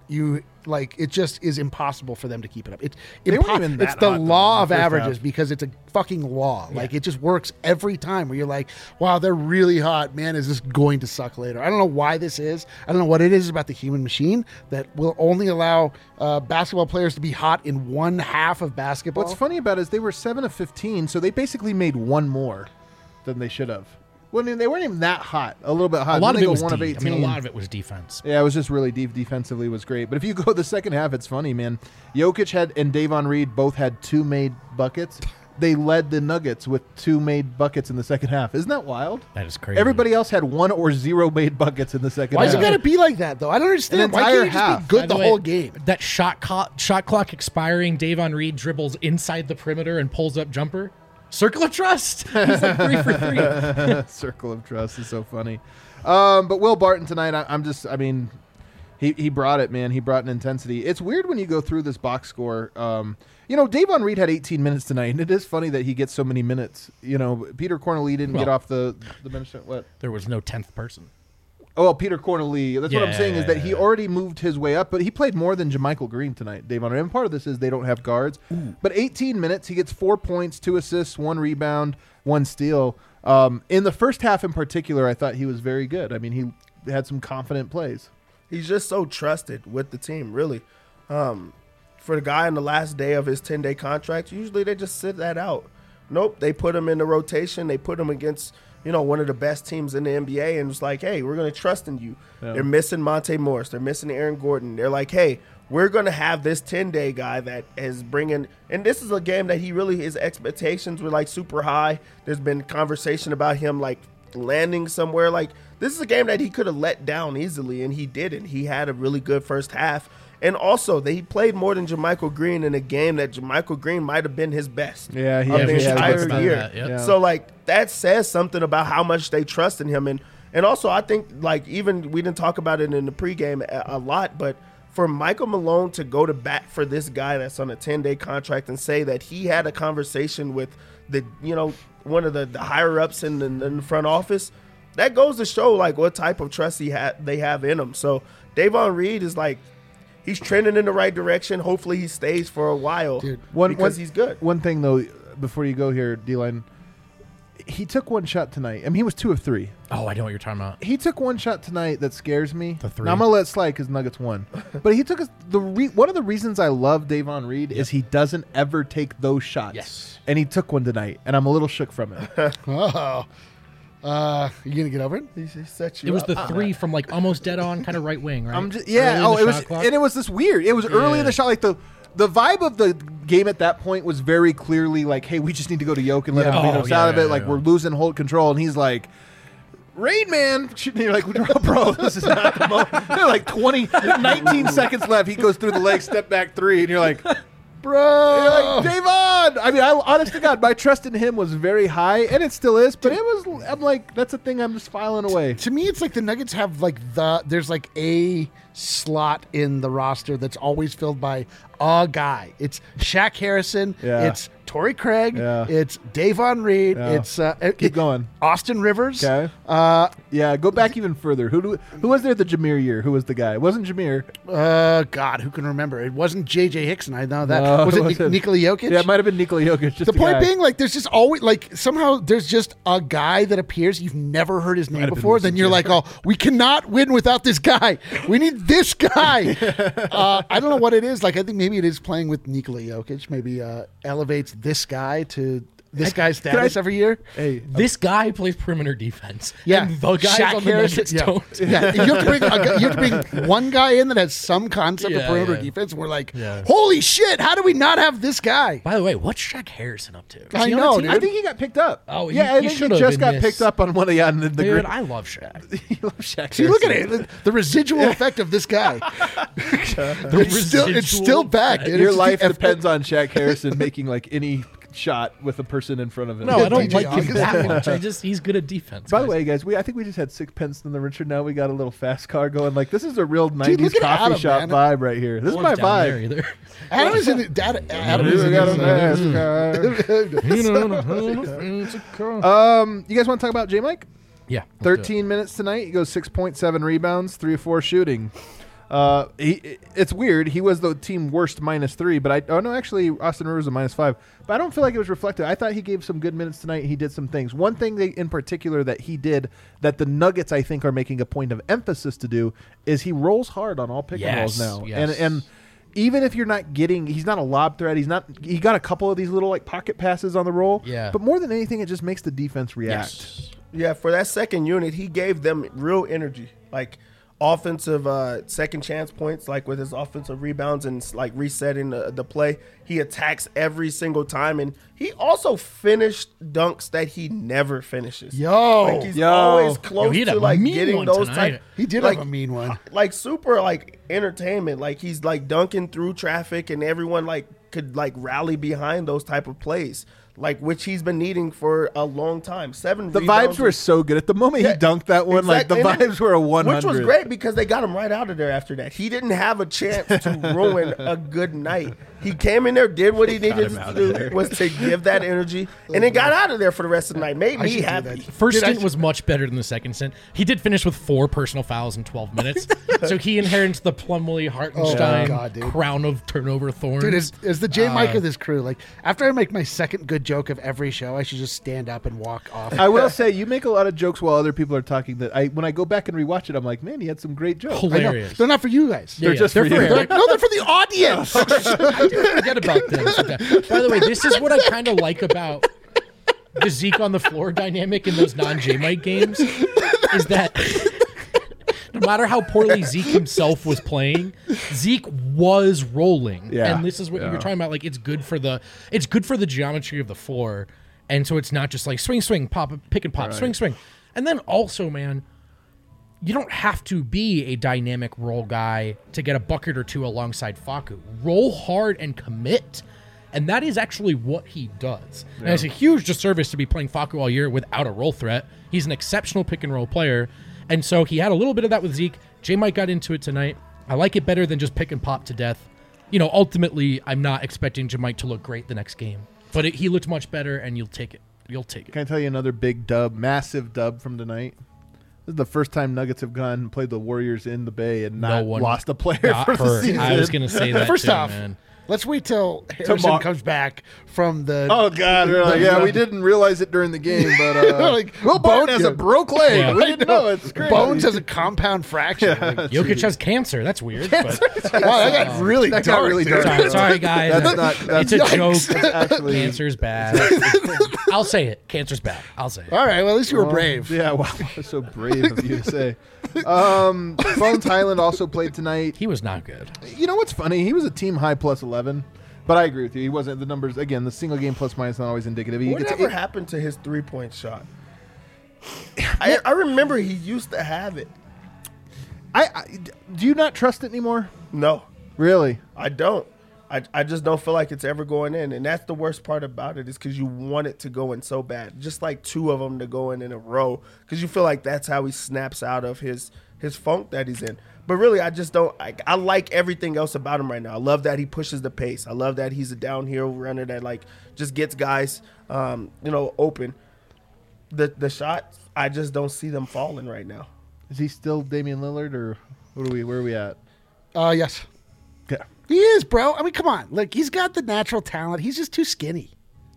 it just is impossible for them to keep it up. It's weren't even that it's the hot, though, law in of the first averages half. because it's a fucking law. Like it just works every time. Where you're like, wow, they're really hot. Man, is this going to suck later? I don't know why this is. I don't know what it is about the human machine that will only allow basketball players to be hot in one half of basketball. What's funny about it is they were 7 of 15, so they basically made one more than they should have. Well, I mean, they weren't even that hot. A little bit hot. A lot Then of they it go was 1 of D. I 18. mean, a lot of it was defense. Yeah, it was just really deep defensively was great. But if you go the second half, it's funny, man. Jokic and Davon Reed both had 2 made buckets. They led the Nuggets with 2 made buckets in the second half. Isn't that wild? That is crazy. Everybody else had 1 or 0 made buckets in the second Why half. is it got to be like that though? I don't understand. An Why can't you entire just half. be good By the way, whole game? That shot clock expiring, Davon Reed dribbles inside the perimeter and pulls up jumper. Circle of trust. He's like 3 for 3. Circle of trust is so funny. But Will Barton tonight, he brought it, man. He brought an intensity. It's weird when you go through this box score. Davon Reed had 18 minutes tonight, and it is funny that he gets so many minutes. Peter Corneli didn't get off the bench. What? There was no 10th person. Oh, well, Peter Corneli. That's what I'm saying is that he Yeah. already moved his way up, but he played more than JaMychal Green tonight, Davon Reed. And part of this is they don't have guards. But 18 minutes, he gets 4 points, 2 assists, 1 rebound, 1 steal. In the first half in particular, I thought he was very good. I mean, he had some confident plays. He's just so trusted with the team, really. For the guy on the last day of his 10-day contract, usually they just sit that out. Nope, they put him in the rotation. They put him against, one of the best teams in the NBA, and it's like, hey, we're going to trust in you. Yeah. They're missing Monte Morris. They're missing Aaron Gordon. They're like, hey, we're going to have this 10-day guy that is bringing – and this is a game that his expectations were, like, super high. There's been conversation about him, like, landing somewhere. Like, this is a game that he could have let down easily, and he didn't. He had a really good first half. And also, he played more than JaMychal Green in a game that JaMychal Green might have been his best Yeah, he of the actually had entire good stuff. year. That, yep. Yeah. So, like, that says something about how much they trust in him. And also, I think, like, even we didn't talk about it in the pregame a lot, but for Michael Malone to go to bat for this guy that's on a 10-day contract and say that he had a conversation with one of the higher-ups in the front office, that goes to show, like, what type of trust they have in him. So, Davon Reed is, like, he's trending in the right direction. Hopefully he stays for a while because he's good. One thing, though, before you go here, D-Line, he took 1 shot tonight. I mean, he was 2 of 3. Oh, I know what you're talking about. He took 1 shot tonight that scares me. The 3. Now, I'm going to let it slide because Nuggets won. But he took one of the reasons I love Davon Reed is he doesn't ever take those shots. Yes. And he took one tonight, and I'm a little shook from it. Oh. You gonna get over it? He set you It was up. the 3 from like almost dead on, kind of right wing, right? Early in Oh, the it was, shot clock. and it was this weird. It was early in the shot, like the vibe of the game at that point was very clearly like, hey, we just need to go to Yoke and let him Yeah. beat Oh, us yeah, out of it. yeah, Like yeah. we're losing hold control, and he's like, Rain Man. And you're like, bro, this is not the moment. There are like 19 seconds left. He goes through the leg, step back 3, and you're like, Bro. you're like, Davon. I mean, honest to God, my trust in him was very high, and it still is. But I'm like, that's a thing I'm just filing away. To me, it's like the Nuggets have there's like a slot in the roster that's always filled by a guy. It's Shaq Harrison. Yeah. It's Torrey Craig. Yeah. It's Davon Reed. Yeah. It's Keep going. Austin Rivers. Okay. Yeah, go back even further. Who was there the Jameer year? Who was the guy? It wasn't Jameer. God, who can remember? It wasn't J.J. Hickson. I know that. No, was it it wasn't. Nikola Jokic? Yeah, it might have been Nikola Jokic. Just The point guy. being, like, there's just always, like, somehow there's just a guy that appears. You've never heard his name before. Then you're like, oh, we cannot win without this guy. We need this guy. I don't know what it is. Like, I think maybe it is playing with Nikola Jokic. Maybe elevates this guy to this guy's status every year. Hey, This guy plays perimeter defense. Yeah, And the guys Shaq on the Harrison, Nuggets yeah. don't. Yeah, you have to bring one guy in that has some concept of Yeah, perimeter yeah. defense. And we're like, Yeah. holy shit! How do we not have this guy? By the way, what's Shaq Harrison up to? Is I he on know, the team? dude. I think he got picked up. Oh, yeah, he I think he should've just in got this. picked up on one of the Dude, great. I love Shaq. You love Shaq. See, look at Harrison. it. The residual effect of this guy. It's still back. Dude. Your It's- life if- depends on Shaq Harrison making like any shot with a person in front of him. No, I don't DJ like him August. that much. He's good at defense. By the guys. way, guys, I think we just had sixpence in the Richard. Now we got a little fast car going. Like this is a real Dude, '90s look at coffee Adam, shop man. vibe right here. This is No my one's down there vibe. either. Adam is in it. Adam is We in got a it. fast car. You guys want to talk about J Mike? Yeah. let's do it. 13 minutes tonight. He goes 6.7 rebounds, 3 or 4 shooting. It's weird. He was the team worst -3, but actually Austin Rivers was a -5. But I don't feel like it was reflective. I thought he gave some good minutes tonight. He did some things. One thing in particular that he did that the Nuggets I think are making a point of emphasis to do is he rolls hard on all pick and rolls Yes, now. yes. And even if you're not getting, he's not a lob threat. He got a couple of these little like pocket passes on the roll. Yeah. But more than anything, it just makes the defense react. Yes. Yeah, for that second unit, he gave them real energy, like offensive second chance points, like with his offensive rebounds and like resetting the play. He attacks every single time, and he also finished dunks that he never finishes. Like he's always close he had to a like mean getting one those tonight. type. He did like, have a mean one. like super like entertainment. Like he's like dunking through traffic, and everyone like could like rally behind those type of plays, like which he's been needing for a long time. The vibes were so good. At the moment he dunked that one, like the exactly. vibes were a 100. Which was great because they got him right out of there after that. He didn't have a chance to ruin a good night. He came in there, did what he needed to do, was to give that energy, and then got out of there for the rest of the night. Made me should do happy. that. First Dude, I stint was much better than the second stint. He did finish with 4 personal fouls in 12 minutes. So he inherits the Plumlee Hartenstein God, dude. crown of turnover thorns. Dude, as the J Mike of this crew, like after I make my second good joke of every show, I should just stand up and walk off. I will say you make a lot of jokes while other people are talking. That when I go back and rewatch it, I'm like, man, he had some great jokes. I know. hilarious. They're not for you guys. Yeah, yeah. just for you. Eric. No, they're for the audience. Forget about them. By the way, this is what I kind of like about the Zeke on the floor dynamic in those non-J Mike games is that no matter how poorly Zeke himself was playing, Zeke was rolling. Yeah. And this is what you were talking about. Like it's good for the geometry of the floor. And so it's not just like swing, swing, pop, pick and pop, swing, swing. And then also, man, you don't have to be a dynamic roll guy to get a bucket or two alongside Facu. Roll hard and commit. And that is actually what he does. And it's a huge disservice to be playing Facu all year without a roll threat. He's an exceptional pick and roll player. And so he had a little bit of that with Zeke. J Mike got into it tonight. I like it better than just pick and pop to death. You know, ultimately, I'm not expecting J Mike to look great the next game. But he looked much better, and you'll take it. You'll take it. Can I tell you another big dub, massive dub from tonight? This is the first time Nuggets have gone and played the Warriors in the Bay and not one lost a player got for the hurt. season. I was going to say that First too, off, man. let's wait till Harrison Tomorrow. comes back from the. Oh God! We're like, yeah, we didn't realize it during the game, but Like, Will Barton Bone- has a broke leg. Yeah. We didn't know. It's crazy. Bones has a compound fracture. Like, Jokic has cancer. That's weird. But wow, that got really That dark. got really dude. dark. sorry, guys. That's not. That's It's a yikes. joke. That's actually. Cancer's bad. I'll say it. Cancer's bad. I'll say it. All right, well, at least you were brave. Yeah, wow, that's so brave of you to say. Bones Highland also played tonight. He was not good. You know what's funny? He was a team high plus 11, but I agree with you. He wasn't the numbers again. The single game plus minus not always indicative. He gets Whatever happened to his 3-point shot? I remember he used to have it. Do you not trust it anymore? No, Really? I don't. I just don't feel like it's ever going in, and that's the worst part about it is because you want it to go in so bad, just like 2 of them to go in a row, because you feel like that's how he snaps out of his funk that he's in. But really, I just don't. I like everything else about him right now. I love that he pushes the pace. I love that he's a downhill runner that like just gets guys, open. The shots, I just don't see them falling right now. Is he still Damian Lillard, or where are we at? Yes. Okay. He is, bro. I mean, come on. Like, he's got the natural talent. He's just too skinny.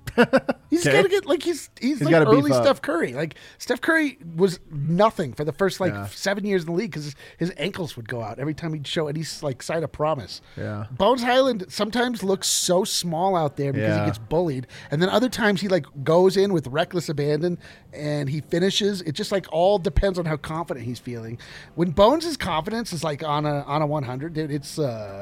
He's Okay. got to get like he's like gotta beef early up. Steph Curry. Like Steph Curry was nothing for the first 7 years in the league because his ankles would go out every time he'd show any like sign of promise. Yeah. Bones Highland sometimes looks so small out there because Yeah. he gets bullied, and then other times he like goes in with reckless abandon and he finishes. It just like all depends on how confident he's feeling. When Bones' confidence is like on a 100, dude, it's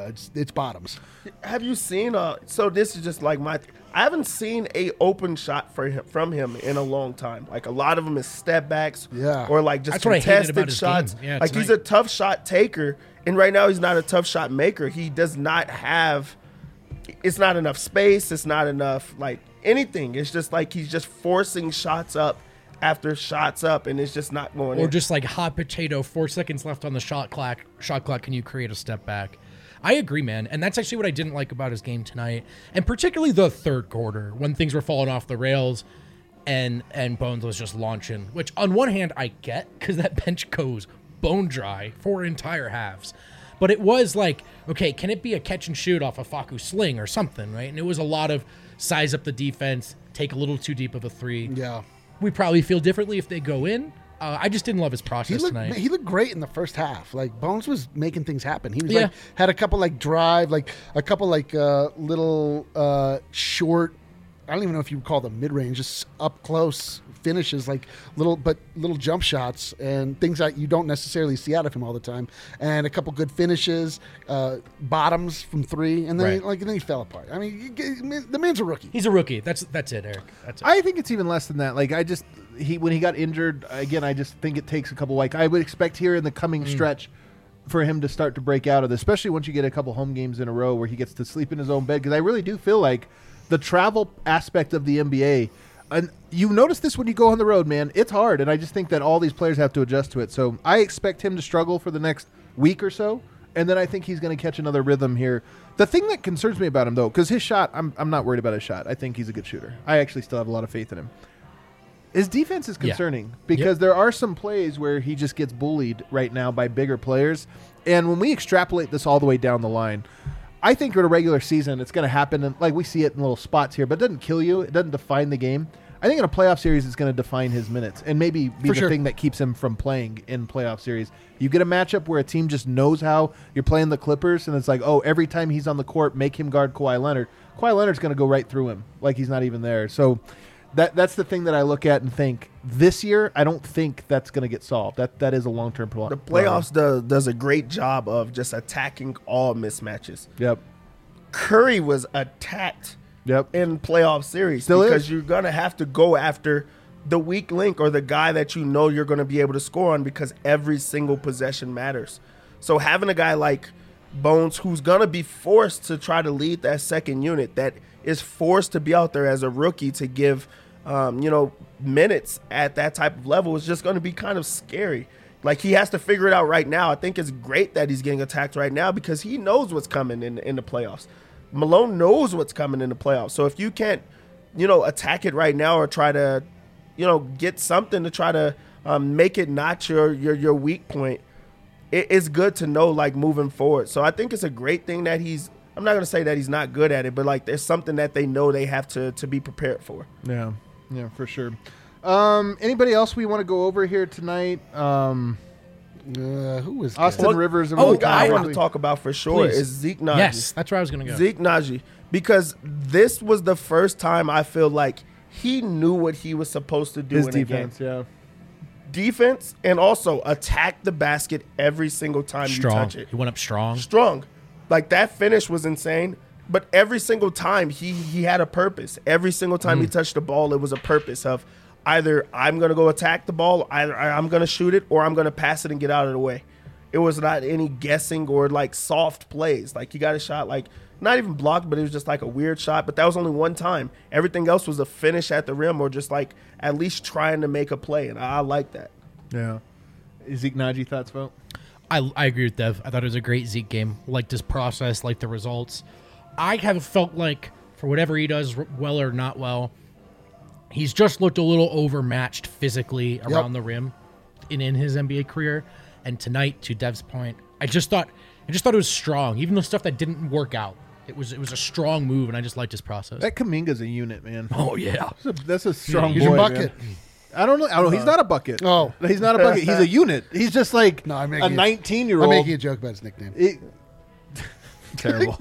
bottoms. Have you seen? So this is just like I haven't seen a open shot from him in a long time. Like a lot of them is step backs, Yeah. or like just That's what I hated about contested his shots. game. Yeah, like he's tonight. a tough shot taker, and right now he's not a tough shot maker. He does not have. It's not enough space. It's not enough like anything. It's just like he's just forcing shots up after shots up, and it's just not going. Or in. just like hot potato, 4 seconds left on the shot clock. Can you create a step back? I agree, man. And that's actually what I didn't like about his game tonight. And particularly the third quarter when things were falling off the rails and Bones was just launching, which on one hand I get because that bench goes bone dry for entire halves. But it was like, okay, can it be a catch and shoot off a Facu sling or something, right? And it was a lot of size up the defense, take a little too deep of a three. Yeah. We probably feel differently if they go in. I just didn't love his process tonight. He looked great in the first half. Like Bones was making things happen. He was Yeah. like had a couple like drive, like a couple like little short. I don't even know if you would call them mid range, just up close finishes, like little jump shots and things that you don't necessarily see out of him all the time. And a couple good finishes, bottoms from three, and then Right. then he fell apart. I mean, the man's a rookie. He's a rookie. That's it, Eric. That's it. I think it's even less than that. Like when he got injured again, I just think it takes a couple. Like I would expect here in the coming stretch for him to start to break out of this, especially once you get a couple home games in a row where he gets to sleep in his own bed. Because I really do feel like the travel aspect of the NBA, and you notice this when you go on the road, man, it's hard. And I just think that all these players have to adjust to it. So I expect him to struggle for the next week or so. And then I think he's going to catch another rhythm here. The thing that concerns me about him, though, because his shot, I'm not worried about his shot. I think he's a good shooter. I actually still have a lot of faith in him. His defense is concerning because there are some plays where he just gets bullied right now by bigger players. And when we extrapolate this all the way down the line, I think in a regular season it's going to happen. And like we see it in little spots here, but it doesn't kill you. It doesn't define the game. I think in a playoff series it's going to define his minutes and maybe be the thing that keeps him from playing in playoff series. You get a matchup where a team just knows how you're playing the Clippers, and it's like, oh, every time he's on the court, make him guard Kawhi Leonard. Kawhi Leonard's going to go right through him like he's not even there. So that's the thing that I look at and think this year I don't think that's going to get solved. That is a long-term problem. The playoffs does a great job of just attacking all mismatches. Yep. Curry was attacked in playoff series because you're going to have to go after the weak link or the guy that you know you're going to be able to score on because every single possession matters. So having a guy like Bones who's going to be forced to try to lead that second unit, that is forced to be out there as a rookie to give minutes at that type of level, is just going to be kind of scary. Like he has to figure it out right now. I think it's great that he's getting attacked right now because he knows what's coming in the playoffs. Malone knows what's coming in the playoffs. So if you can't, attack it right now or try to, get something to try to make it not your weak point, it's good to know like moving forward. So I think it's a great thing that I'm not going to say that he's not good at it, but like there's something that they know they have to be prepared for. Yeah, for sure. Anybody else we want to go over here tonight? Who was Austin Rivers? One guy I want to talk about for sure is Zeke Nnaji. Yes, that's where I was going to go. Zeke Nnaji, because this was the first time I feel like he knew what he was supposed to do His in defense, a game. Defense, and also attack the basket every single time you touch it. He went up strong. Like that finish was insane. But every single time he had a purpose. Every single time he touched the ball, it was a purpose of either I'm going to go attack the ball, either I'm going to shoot it, or I'm going to pass it and get out of the way. It was not any guessing or like soft plays. Like he got a shot like not even blocked, but it was just like a weird shot. But that was only one time. Everything else was a finish at the rim or just like at least trying to make a play. And I like that. Yeah. Zeke Nnaji, thoughts, Vote? I agree with Dev. I thought it was a great Zeke game. Liked his process, liked the results. I have felt like, for whatever he does, well or not well, he's just looked a little overmatched physically around the rim in his NBA career. And tonight, to Dev's point, I just thought it was strong, even the stuff that didn't work out. It was a strong move, and I just liked his process. That Kuminga's a unit, man. Oh yeah, That's a strong He's boy, a bucket. man. I don't know. He's not a bucket. Oh. He's not a bucket. He's a unit. He's just like No, I'm a making 19-year-old. I'm making a joke about his nickname. Terrible.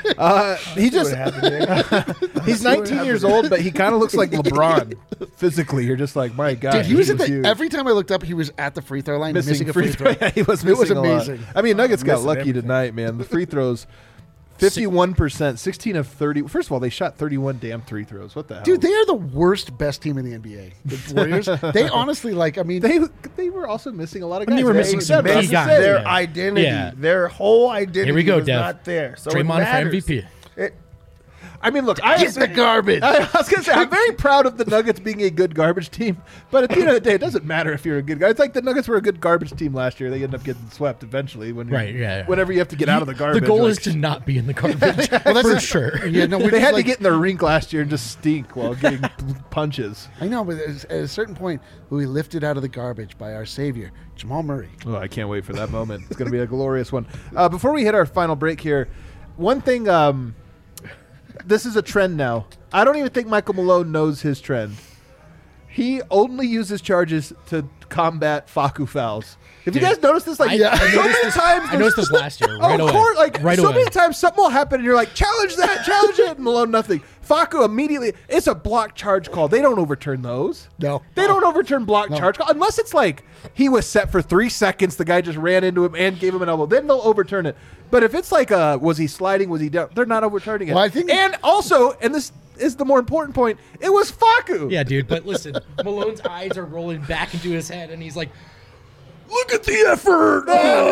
He's 19 years old, but he kind of looks like LeBron physically. You're just like, my God. Dude, he was huge. every time I looked up, he was at the free throw line missing a free throw. throw. He was It was missing a lot. amazing. I mean, Nuggets got Missing lucky everything. tonight, man. The free throws, 51%, 16 of 30. First of all, they shot 31 damn free throws. What the hell? Dude, they are the worst best team in the NBA. The Warriors. They honestly, they were also missing a lot of guys. They were missing some key Missed guys. their Yeah. identity, Yeah. their whole identity Here we go, was Dev. not there. So it Draymond for matters. MVP. I mean, look, get the garbage. I was going to say, I'm very proud of the Nuggets being a good garbage team, but at the end of the day, it doesn't matter if you're a good guy. It's like the Nuggets were a good garbage team last year. They end up getting swept eventually whenever you have to get out of the garbage. The goal like, is to not be in the garbage. For sure. Yeah, no, we're they just had like, to get in the rink last year and just stink while getting punches. I know, but at a certain point, we lifted out of the garbage by our savior, Jamal Murray. Oh, I can't wait for that moment. It's going to be a glorious one. Before we hit our final break here, one thing, this is a trend now. I don't even think Michael Malone knows his trend. He only uses charges to combat Facu fouls. Have you guys noticed this? Like, I so many times. I noticed this last year. Right of away. course, like right so away. many times something will happen and you're like, challenge that, challenge it, and Malone nothing. Facu immediately, it's a block charge call. They don't overturn those. No. They don't overturn block charge call unless it's like he was set for 3 seconds, the guy just ran into him and gave him an elbow. Then they'll overturn it. But if it's like was he sliding, was he down, they're not overturning it. Well, I think- and also, and this is the more important point, it was Facu. Yeah, dude. But listen, Malone's eyes are rolling back into his head, and he's like, "Look at the effort."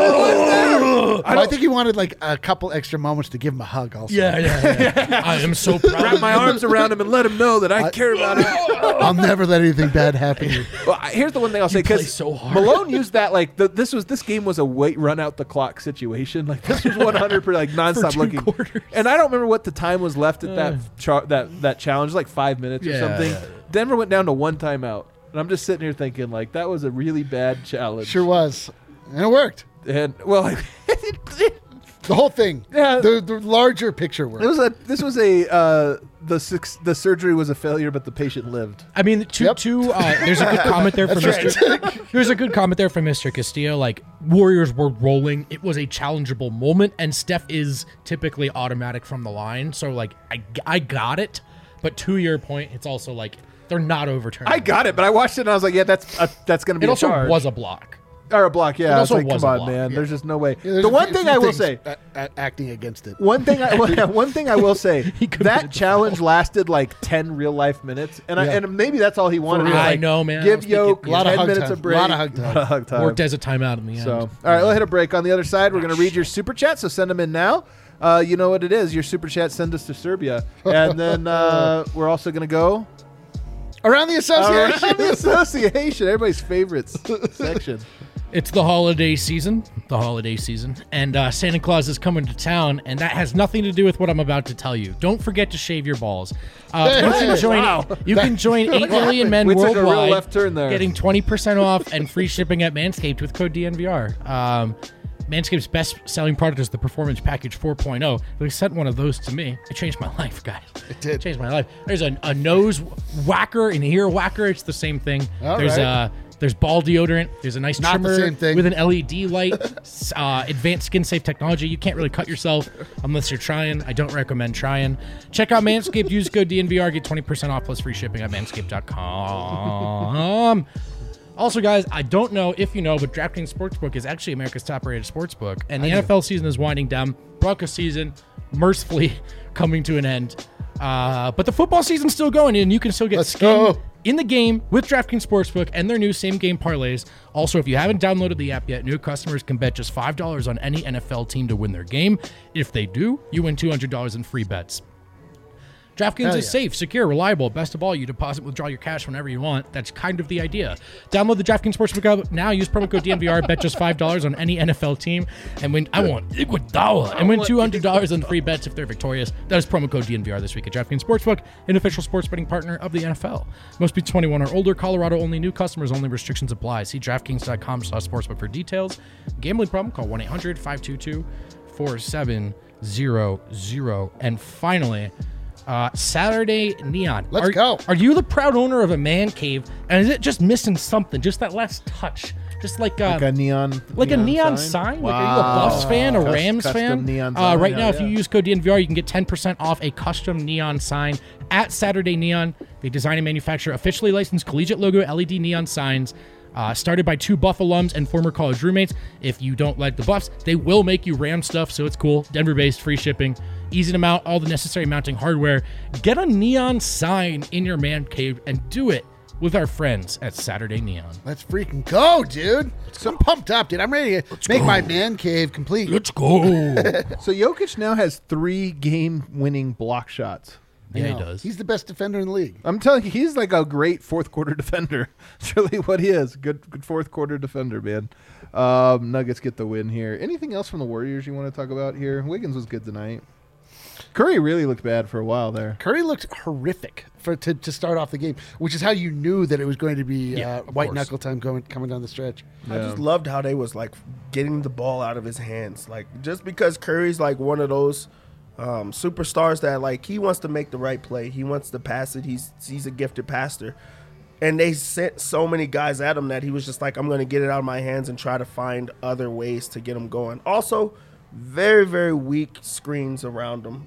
I think he wanted like a couple extra moments to give him a hug also. Yeah. I am so proud. Wrap my arms around him and let him know that I care about him. I'll never let anything bad happen to you. Well, here's the one thing I'll say, play because so hard. Malone used that like this game was a wait run out the clock situation. Like this was 100% like nonstop two looking. quarters. And I don't remember what the time was left at that challenge, like 5 minutes or Yeah, something. yeah. Denver went down to 1 timeout, and I'm just sitting here thinking like that was a really bad challenge. Sure was. And it worked. And well, The whole thing. Yeah. The larger picture worked. the surgery was a failure, but the patient lived. I mean, there's a good comment there from Mr. There's a good comment there from Mr. Castillo. Like, Warriors were rolling. It was a challengeable moment, and Steph is typically automatic from the line. So, like, I got it. But to your point, it's also like they're not overturning. I got it, but I watched it and I was like, yeah, that's going to be It a also charge. was a block. Or a block, yeah. It also It's like, was come a on, block, man. yeah. There's just no way. Yeah, there's The a one few thing I will things say, acting against it. one thing I will say, committed that the challenge lasted like 10 real life minutes, and Yeah. and maybe that's all he wanted. real. was, I like, know, man. I Give was thinking- Yoke A lot of 10 hug minutes time. of break. Lot of hug time. Hug time. Worked as a timeout in the end. So, all right, we'll hit a break. On the other side, we're going to read your super chat. So send them in now. You know what it is. Your super chat, send us to Serbia, and then we're also going to go Around the association. around the association, everybody's favorite section. It's the holiday season, and Santa Claus is coming to town, and that has nothing to do with what I'm about to tell you. Don't forget to shave your balls. You can join 8 million men We took a real worldwide, left turn there. getting 20% off and free shipping at Manscaped with code DNVR. Manscaped's best-selling product is the Performance Package 4.0. They sent one of those to me. It changed my life, guys. It did. Changed my life. There's a nose whacker and ear whacker. It's the same thing. All There's right. There's ball deodorant. There's a nice Not the trimmer same thing. with an LED light. Advanced skin-safe technology. You can't really cut yourself unless you're trying. I don't recommend trying. Check out Manscaped. Use code DNVR. Get 20% off plus free shipping at manscaped.com. Also, guys, I don't know if you know, but DraftKings Sportsbook is actually America's top-rated sportsbook, and the NFL season is winding down. Broncos season, mercifully, coming to an end. But the football season's still going, and you can still get Let's skin go. in the game with DraftKings Sportsbook and their new same-game parlays. Also, if you haven't downloaded the app yet, new customers can bet just $5 on any NFL team to win their game. If they do, you win $200 in free bets. DraftKings Hell is yeah. safe, secure, reliable. Best of all, you deposit, withdraw your cash whenever you want. That's kind of the idea. Download the DraftKings Sportsbook app now. Use promo code DNVR. Bet just $5 on any NFL team, and win. I want Iguodala, and win $200 on free bets if they're victorious. That is promo code DNVR this week at DraftKings Sportsbook, an official sports betting partner of the NFL. Must be 21 or older. Colorado only. New customers only. Restrictions apply. See DraftKings.com/sportsbook for details. Gambling problem? Call 1-800-522-4700. And finally, Saturday Neon. Let's go. Are you the proud owner of a man cave? And is it just missing something? Just that last touch? Just like a neon, a neon sign? Like, are you a Buffs fan, a Rams Custom fan? neon sign. Right now, Yeah, if you use code DNVR, you can get 10% off a custom neon sign at Saturday Neon. They design and manufacture officially licensed collegiate logo LED neon signs. Started by 2 Buff alums and former college roommates. If you don't like the Buffs, they will make you Ram stuff, so it's cool. Denver-based, free shipping, easy to mount, all the necessary mounting hardware. Get a neon sign in your man cave and do it with our friends at Saturday Neon. Let's freaking go, dude. I'm pumped up, dude. I'm ready to make my man cave complete. Let's go. So Jokic now has 3 game-winning block shots. Yeah, he No, does. He's the best defender in the league. I'm telling you, he's like a great fourth quarter defender. That's really what he is. Good fourth quarter defender, man. Nuggets get the win here. Anything else from the Warriors you want to talk about here? Wiggins was good tonight. Curry really looked bad for a while there. Curry looked horrific to start off the game, which is how you knew that it was going to be Yeah, of white course. knuckle time coming down the stretch. I just loved how they was like getting the ball out of his hands. Like just because Curry's like one of those superstars that like he wants to make the right play. He wants to pass it. He's a gifted passer. And they sent so many guys at him that he was just like, I'm going to get it out of my hands and try to find other ways to get him going. Also, very, very weak screens around him.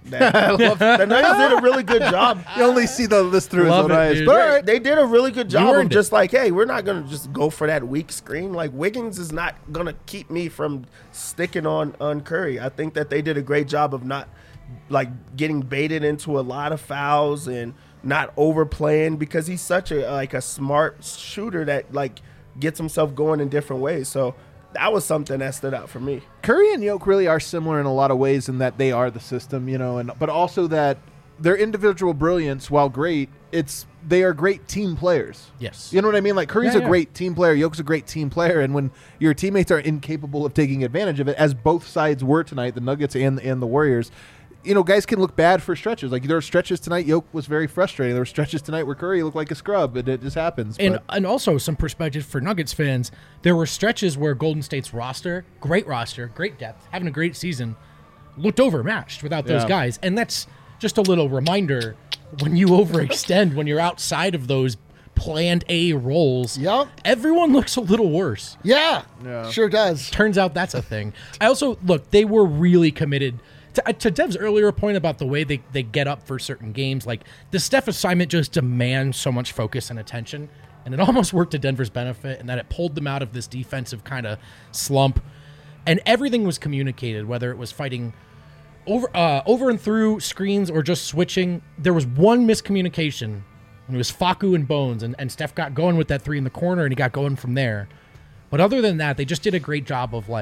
The Nuggets did a really good job. You only see the list through his Love own it, eyes. dude. But all right. They did a really good job of earned just like, hey, we're not going to just go for that weak screen. Like, Wiggins is not going to keep me from sticking on Curry. I think that they did a great job of not, like, getting baited into a lot of fouls and not overplaying because he's such a smart shooter that, like, gets himself going in different ways. So that was something that stood out for me. Curry and Yoke really are similar in a lot of ways in that they are the system, but also that their individual brilliance, while great, they are great team players. Yes. You know what I mean? Like Curry's Yeah, a great team player, Yoke's a great team player, and when your teammates are incapable of taking advantage of it, as both sides were tonight, the Nuggets and the Warriors, guys can look bad for stretches. Like there were stretches tonight, Yoke was very frustrating. There were stretches tonight where Curry looked like a scrub, and it just happens. And also some perspective for Nuggets fans, there were stretches where Golden State's roster, great depth, having a great season, looked overmatched without those Yeah. guys. And that's just a little reminder when you overextend, when you're outside of those planned A roles, Yup. everyone looks a little worse. Yeah, Yeah. sure does. Turns out that's a thing. I also, look, they were really committed. To Dev's earlier point about the way they get up for certain games, like the Steph assignment just demands so much focus and attention, and it almost worked to Denver's benefit in that it pulled them out of this defensive kind of slump, and everything was communicated, whether it was fighting over and through screens or just switching. There was one miscommunication, and it was Facu and Bones, and Steph got going with that 3 in the corner, and he got going from there. But other than that, they just did a great job of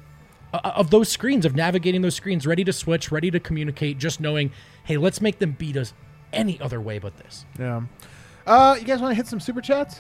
of those screens, of navigating those screens, ready to switch, ready to communicate, just knowing, hey, let's make them beat us any other way but this. Yeah. You guys want to hit some super chats?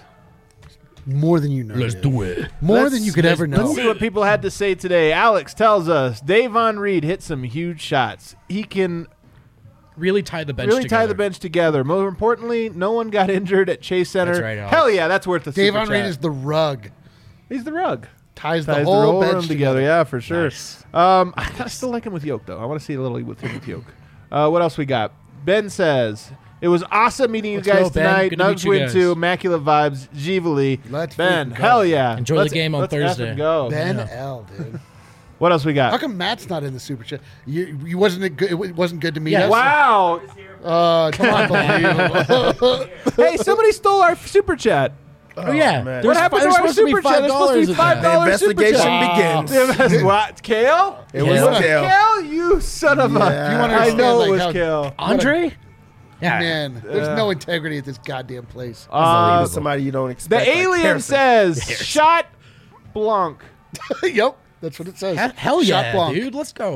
More than you know. dude. do it. More than you could ever know. Let's see what people had to say today. Alex tells us Davon Reed hit some huge shots. He can Really tie the bench really together. tie the bench together. More importantly, no one got injured at Chase Center. That's right, Alex. Hell yeah, that's worth the super Davon Reed chat. is the rug. He's the rug. Ties the Ties whole room bench together. Yeah, for sure. Nice. I still like him with Yoke, though. I want to see a little with him with Yoke. What else we got? Ben says, it was awesome meeting Let's you guys go, Ben. tonight. Good to meet Nugs you win guys. 2. Immaculate vibes. Givali. Let's Ben, freaking go. hell yeah. Enjoy the game on let's Thursday. effing go. Ben Yeah. L, dude. What else we How got? come Matt's not in the super chat? You wasn't it good? It wasn't good to meet Yeah, us. Wow. Come on, unbelievable. Hey, somebody stole our super chat. Oh, yeah. man. What happened to our supposed to be super chat? There's supposed to be $5 in there. $5 The super investigation chat. begins. What? Kale? It was Kale. Kale, you son of a. Yeah. You wanna I know understand, it was like, how- Kale. Andre? Yeah. Man, there's no integrity at this goddamn place. Somebody you don't The expect. like alien Harrison. says, shot Blanc. Yep, that's what it says. Hell Shot yeah, Blanc. dude. Let's go.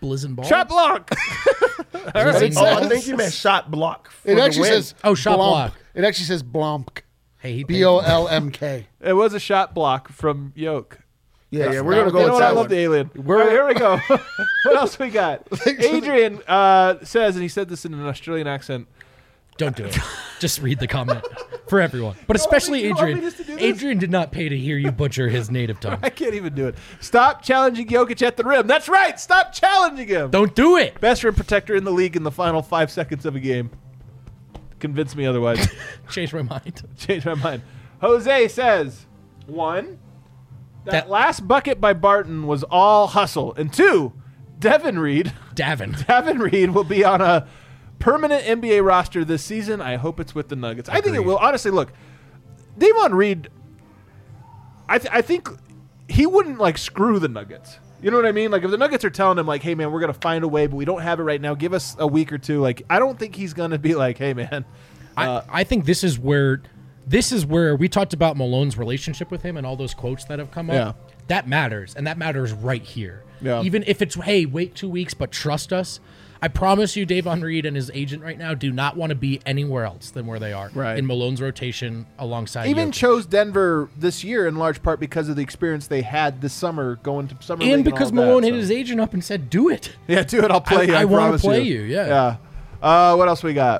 Blizzin' Ball. Shot block. Blizzin' Oh, I Balls? think you meant shot block. For It the actually win. says shot Blomk. block. It actually says Blomk. Hey, he paid Bolmk. It was a shot block from Yoke. Yeah, we're gonna You go know with what? I that love one. the alien. All right, here we go. What else we got? Adrian says, and he said this in an Australian accent. Don't do it. Just read the comment for everyone, but especially you don't want me Adrian. just to do this? Adrian did not pay to hear you butcher his native tongue. I can't even do it. Stop challenging Jokic at the rim. That's right. Stop challenging him. Don't do it. Best rim protector in the league in the final 5 seconds of a game. Convince me otherwise. Change my mind. Change my mind. Jose says, 1, that That- last bucket by Barton was all hustle. And 2, Devin Reed will be on a permanent NBA roster this season. I hope it's with the Nuggets. I think it Agreed. will. Honestly, look, Davon Reed, I think he wouldn't like screw the Nuggets. You know what I mean? Like if the Nuggets are telling him like, hey man, we're gonna find a way, but we don't have it right now. Give us a week or two. Like I don't think he's gonna be like, hey man. I think this is where we talked about Malone's relationship with him and all those quotes that have come up. Yeah. That matters, and that matters right here. Yeah. Even if it's, hey, wait 2 weeks, but trust us. I promise you, Davon Reed and his agent right now do not want to be anywhere else than where they are Right. in Malone's rotation alongside Even Jokic. chose Denver this year in large part because of the experience they had this summer going to summer league and because all of Malone that, hit his agent up and said, "Do it." Yeah, do it. I'll play you. I wanna promise play you, yeah. Yeah. What else we got?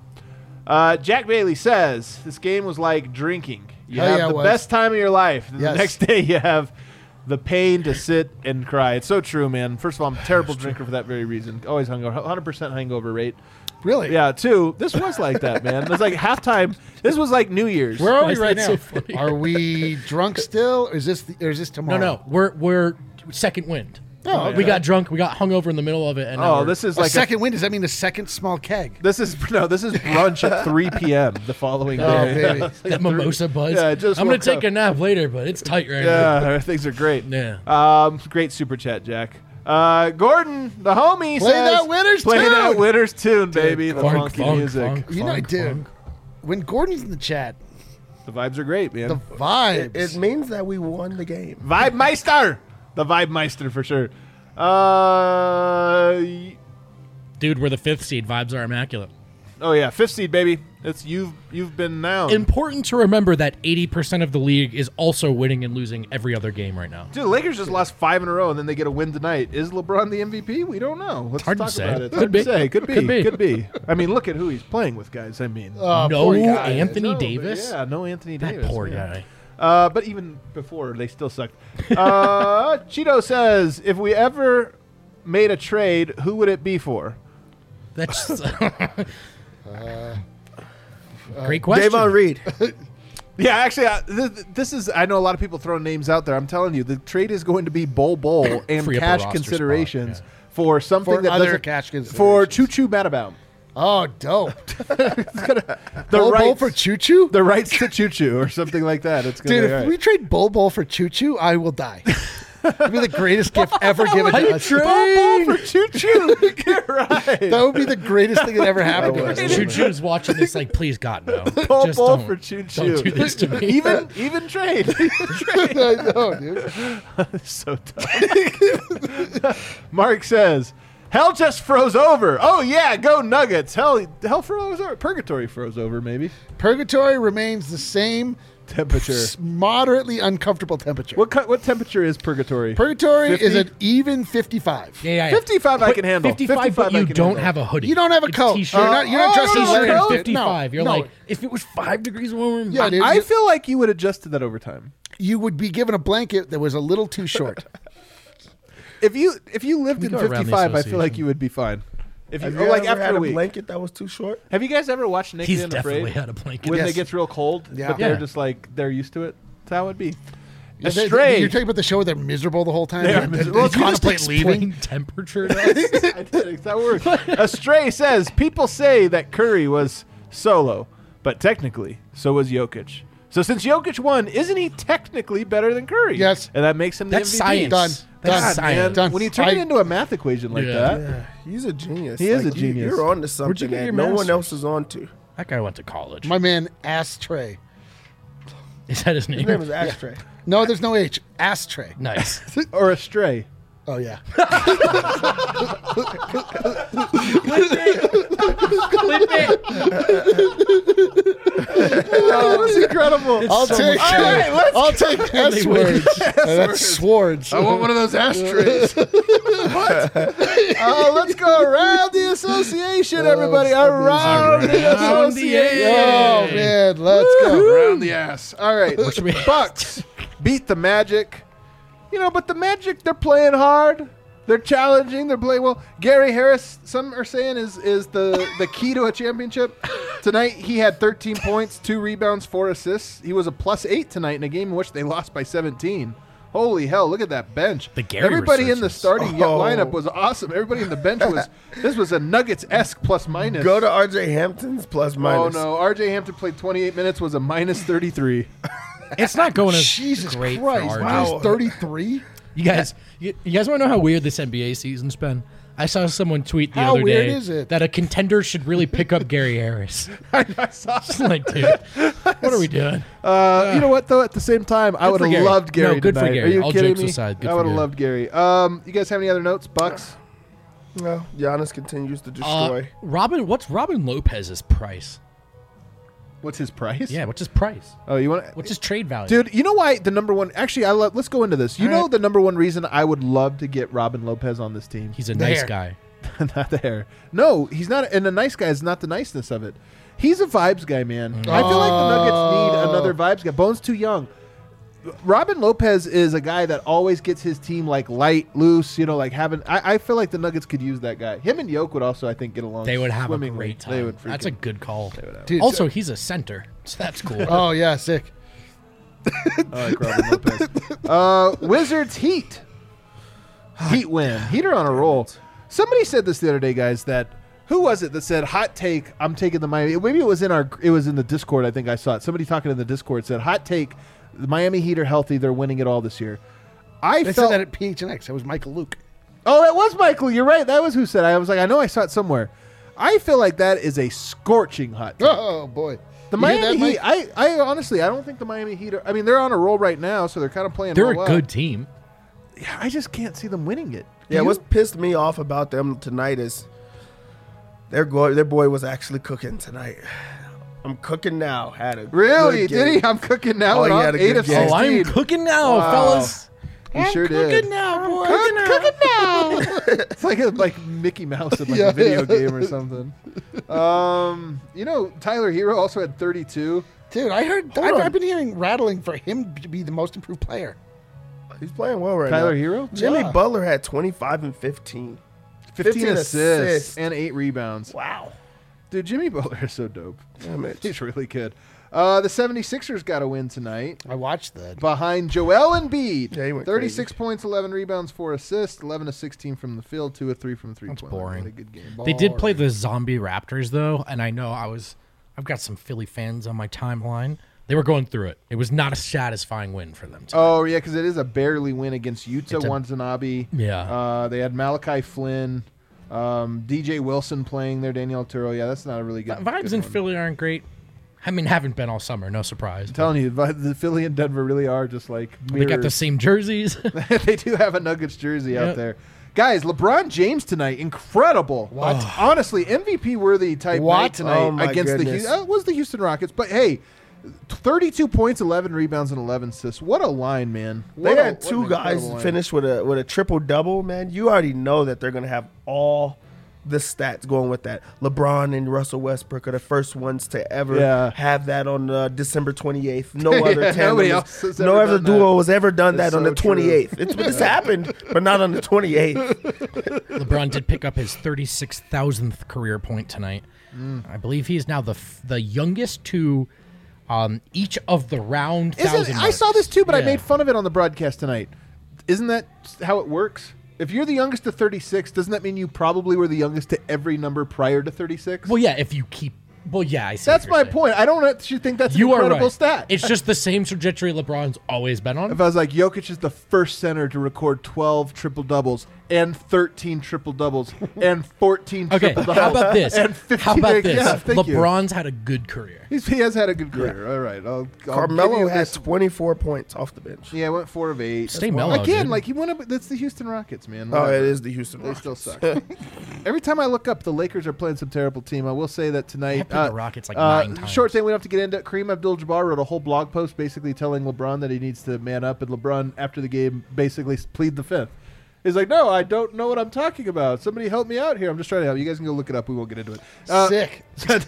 Jack Bailey says this game was like drinking. You Hell have yeah, it the was. best time of your life. And Yes. The next day you have the pain to sit and cry. It's so true, man. First of all, I'm a terrible drinker for that very reason. Always hungover. 100% hangover rate. Really? Yeah. 2, this was like that, man. It was like halftime. This was like New Year's. Where are we Why is right that now? so funny? Are we drunk still? Or is this tomorrow? No, we're second wind. Oh, We got drunk. We got hungover in the middle of it. And now Oh, we're- this is A like second wind? Does that mean a second small keg? This is brunch at 3 p.m. the following Oh, day. baby. that mimosa buzz. Yeah, I just I'm gonna woke take up. a nap later, but it's tight right now. Yeah, things are great. Yeah. Great super chat, Jack. Gordon, the homie, Play says, that winner's play tune." that winner's tune, baby. The Funk, funky funk, music. funk, You know, funk, dude, funk. when Gordon's in the chat, The vibes are great, man. the vibes. It means that we won the game. Vibe Meister, the Vibe Meister for sure. Dude, we're the 5th seed. Vibes are immaculate. Oh yeah, 5th seed, baby. It's you've been now. Important to remember that 80% of the league is also winning and losing every other game right now. Dude, the Lakers just lost 5 in a row, and then they get a win tonight. Is LeBron the MVP? We don't know. Let's Hard to talk say. about it. Could Hard be. to say. Could be. Could be. Could be. I mean, look at who he's playing with, guys. I mean, No poor guy. Anthony No, but Davis? Yeah, no Anthony That Davis. poor man. guy. But even before, they still sucked. Cheeto says, if we ever made a trade, who would it be for? That's great question. Davon Reed. Yeah, actually, this is. I know a lot of people throwing names out there. I'm telling you, the trade is going to be Bol and Free up a cash roster considerations spot, for something For that other doesn't- cash for considerations. Choo Choo Matabaum. Oh, dope. The Bol rights for Choo Choo? the rights to Choo Choo or something like that. It's gonna Dude, be if all right. we trade Bol for Choo Choo, I will die. It'd be the greatest gift ever given to us. Bol for Choo Choo. Get right. That would be the greatest thing that ever happened to us. Choo Choo's watching this like, please God, no. Bol Just Bol don't- for Choo Choo. Don't do this to me. Even trade. I know, dude. So dumb. Mark says, hell just froze over. Oh yeah, go Nuggets. Hell froze over. Purgatory froze over, maybe. Purgatory remains the same Temperature. moderately uncomfortable temperature. What temperature is purgatory? Purgatory 50? is an even 55. Yeah. 55 I can handle. 55, but I you can don't handle. have a hoodie. You don't have a It's coat. T-shirt. You're not dressed in T-shirt leather. and No, 55. You're no. like, if it was 5 degrees warmer, Yeah, dude. I feel like you would adjust to that over time. You would be given a blanket that was a little too short. If you lived We in go around the 55, I feel like association. you would be fine. If you, Have or you like ever after had a a week. blanket that was too short? Have you guys ever watched Naked he's and definitely Afraid? had a blanket. When Yes. they get real cold, Yeah. but they're Yeah. just like they're used to it. That's how it would be. You're Astray. talking about the show where they're miserable the whole time? They are They miserable. Well, you just Contemplate contemplate leaving? leaving temperature. to us? I did it. That works. Astray says people say that Curry was solo, but technically, so was Jokic. So since Jokic won, isn't he technically better than Curry? Yes. and that makes him the That's MVP. science. Done. That's God, science. man. Done. When you turn it I- into a math equation like Yeah. that, Yeah, he's a genius. He is a you- genius. You're on to Where'd you something get that your no one master's? else is on to. That guy went to college. My man, Ashtray. Is that his name? His name is Ashtray. No, there's no H. Ashtray. Nice. or Astray. Oh yeah. Clip it. That was incredible. I'll take S words. That's swords. I want one of those ashtrays. Let's go around the association, everybody. Around the association. Oh man, let's go. Around the ass. All right. Bucks beat the Magic. But the Magic, they're playing hard. They're challenging. They're playing well. Gary Harris, some are saying, is the key to a championship. Tonight, he had 13 points, 2 rebounds, 4 assists. He was a +8 tonight in a game in which they lost by 17. Holy hell, look at that bench. The Gary Everybody in the resurgence. starting lineup was awesome. Everybody in the bench this was a Nuggets-esque plus-minus. Go to RJ Hampton's plus-minus. Oh, no. RJ Hampton played 28 minutes, was a -33. It's not going as Jesus great Christ! for RJ. Wow. 33. You guys want to know how weird this NBA season's been? I saw someone tweet the How other weird day is it? that a contender should really pick up Gary Harris. I saw It's like, dude, what are we doing? You know what, though? At the same time, I would for have Gary. loved Gary No, good for tonight. Gary. Are you All kidding jokes me? aside, good I for would have Gary. loved Gary. You guys have any other notes? Bucks? No, Giannis continues to destroy. What's Robin Lopez's price? What's his price? Yeah, what's his price? Oh, you want? What's his trade value? Dude, you know why the number one? Actually, let's go into this. You All know right. the number one reason I would love to get Robin Lopez on this team. He's a nice There. guy. Not there. No, he's not. And a nice guy is not the niceness of it. He's a vibes guy, man. I feel like the Nuggets need another vibes guy. Bone's too young. Robin Lopez is a guy that always gets his team like light, loose. Like having. I feel like the Nuggets could use that guy. Him and Yoke would also, I think, get along. They would have a swimmingly. great They time. would That's a freaking- good call. Dude, Also, he's a center, so that's cool. Oh yeah, sick. I like Robin Lopez. Wizards Heat. Heat win. Heat are on a roll. Somebody said this the other day, guys, that who was it that said hot take, I'm taking the Miami. Maybe it was in the Discord, I think I saw it. Somebody talking in the Discord said hot take, the Miami Heat are healthy, they're winning it all this year. They felt said that at PHNX. That was Michael Luke. Oh, that was Michael. You're right. That was who said it. I was like, I know I saw it somewhere. I feel like that is a scorching hot take. Oh boy. The You hear Miami that, Heat, Mike? I honestly, I don't think the Miami Heat are, I mean, they're on a roll right now, so they're kind of playing They're real a well. good team. Yeah, I just can't see them winning it. Yeah, Do what's you? pissed me off about them tonight is their boy was actually cooking tonight. I'm cooking now. Had a Really? good Did game. he? I'm cooking now. Oh, and he I'm had a 8 good of game. 16. Oh, I'm cooking now, Wow. fellas. He sure did. now, boy. Cooking now. It's like Mickey Mouse in like Yeah. a video game or something. Tyler Hero also had 32. Dude, I heard. I've been hearing rattling for him to be the most improved player. He's playing well right Tyler now. Hero? Jimmy Yeah. Butler had 25 and 15. 15 assists assists. and 8 rebounds. Wow. Dude, Jimmy Butler is so dope. Damn it. He's really good. The 76ers got a win tonight. I watched that. Behind Joel Embiid. Yeah, he went 36 points, 11 rebounds, 4 assists, 11 of 16 from the field, 2 of 3 from three-point line. boring. What a good game. They did play the zombie Raptors though, and I know I've got some Philly fans on my timeline. They were going through it. It was not a satisfying win for them. Oh, yeah, because it is a barely win against Utah It's a- Watanabe. Yeah. They had Malachi Flynn, DJ Wilson playing there, Daniel Turo. Yeah, that's not a really good Vibes good in one. Philly aren't great. I mean, haven't been all summer. No surprise. I'm telling you, the Philly and Denver really are just like They got the mirrors. same jerseys. They do have a Nuggets jersey out Yep. there. Guys, LeBron James tonight, incredible. What? Honestly, MVP worthy type What? night tonight Oh, my against goodness. it was the Houston Rockets. But hey, 32 points, 11 rebounds, and 11 assists. What a line, man. They What a- had what two an guys incredible line. finish with a triple double, man. You already know that they're gonna have all the stats going with that. LeBron and Russell Westbrook are the first ones to ever Yeah. have that on December 28th. No other Yeah, tandem nobody is- else has no ever other done that. duo has ever done That's that on so the 28th. It's happened, but not on the 28th. LeBron did pick up his 36,000th career point tonight. I believe he is now the youngest to each of the round thousand. Isn't, I saw this too, but I Yeah. made fun of it on the broadcast tonight. Isn't that how it works? If you're the youngest to 36, doesn't that mean you probably were the youngest to every number prior to 36? Well, yeah, if you keep Well, yeah, I see. That's what you're my saying. point. I don't actually think that's an You are incredible right. stat. It's just the same trajectory LeBron's always been on. If I was like, Jokic is the first center to record 12 triple-doubles and 13 triple-doubles and 14 Okay, triple-doubles. how about this? And 15 How about this? Yeah, thank you. LeBron's had a good career. He has had a good career. All right. I'll give Carmelo you had this. 24 points off the bench. Yeah, went 4 of 8. Stay mellow, Again, dude. like he went up. That's the Houston Rockets, man. Oh, Whatever. it is the Houston They Rockets. still suck. Every time I look up, the Lakers are playing some terrible team. I will say that tonight. I've played the Rockets like 9 times. Short saying we don't have to get into it. Kareem Abdul-Jabbar wrote a whole blog post basically telling LeBron that he needs to man up, and LeBron after the game basically plead the fifth. He's like, no, I don't know what I'm talking about. Somebody help me out here. I'm just trying to help. You guys can go look it up. We won't get into it. Sick.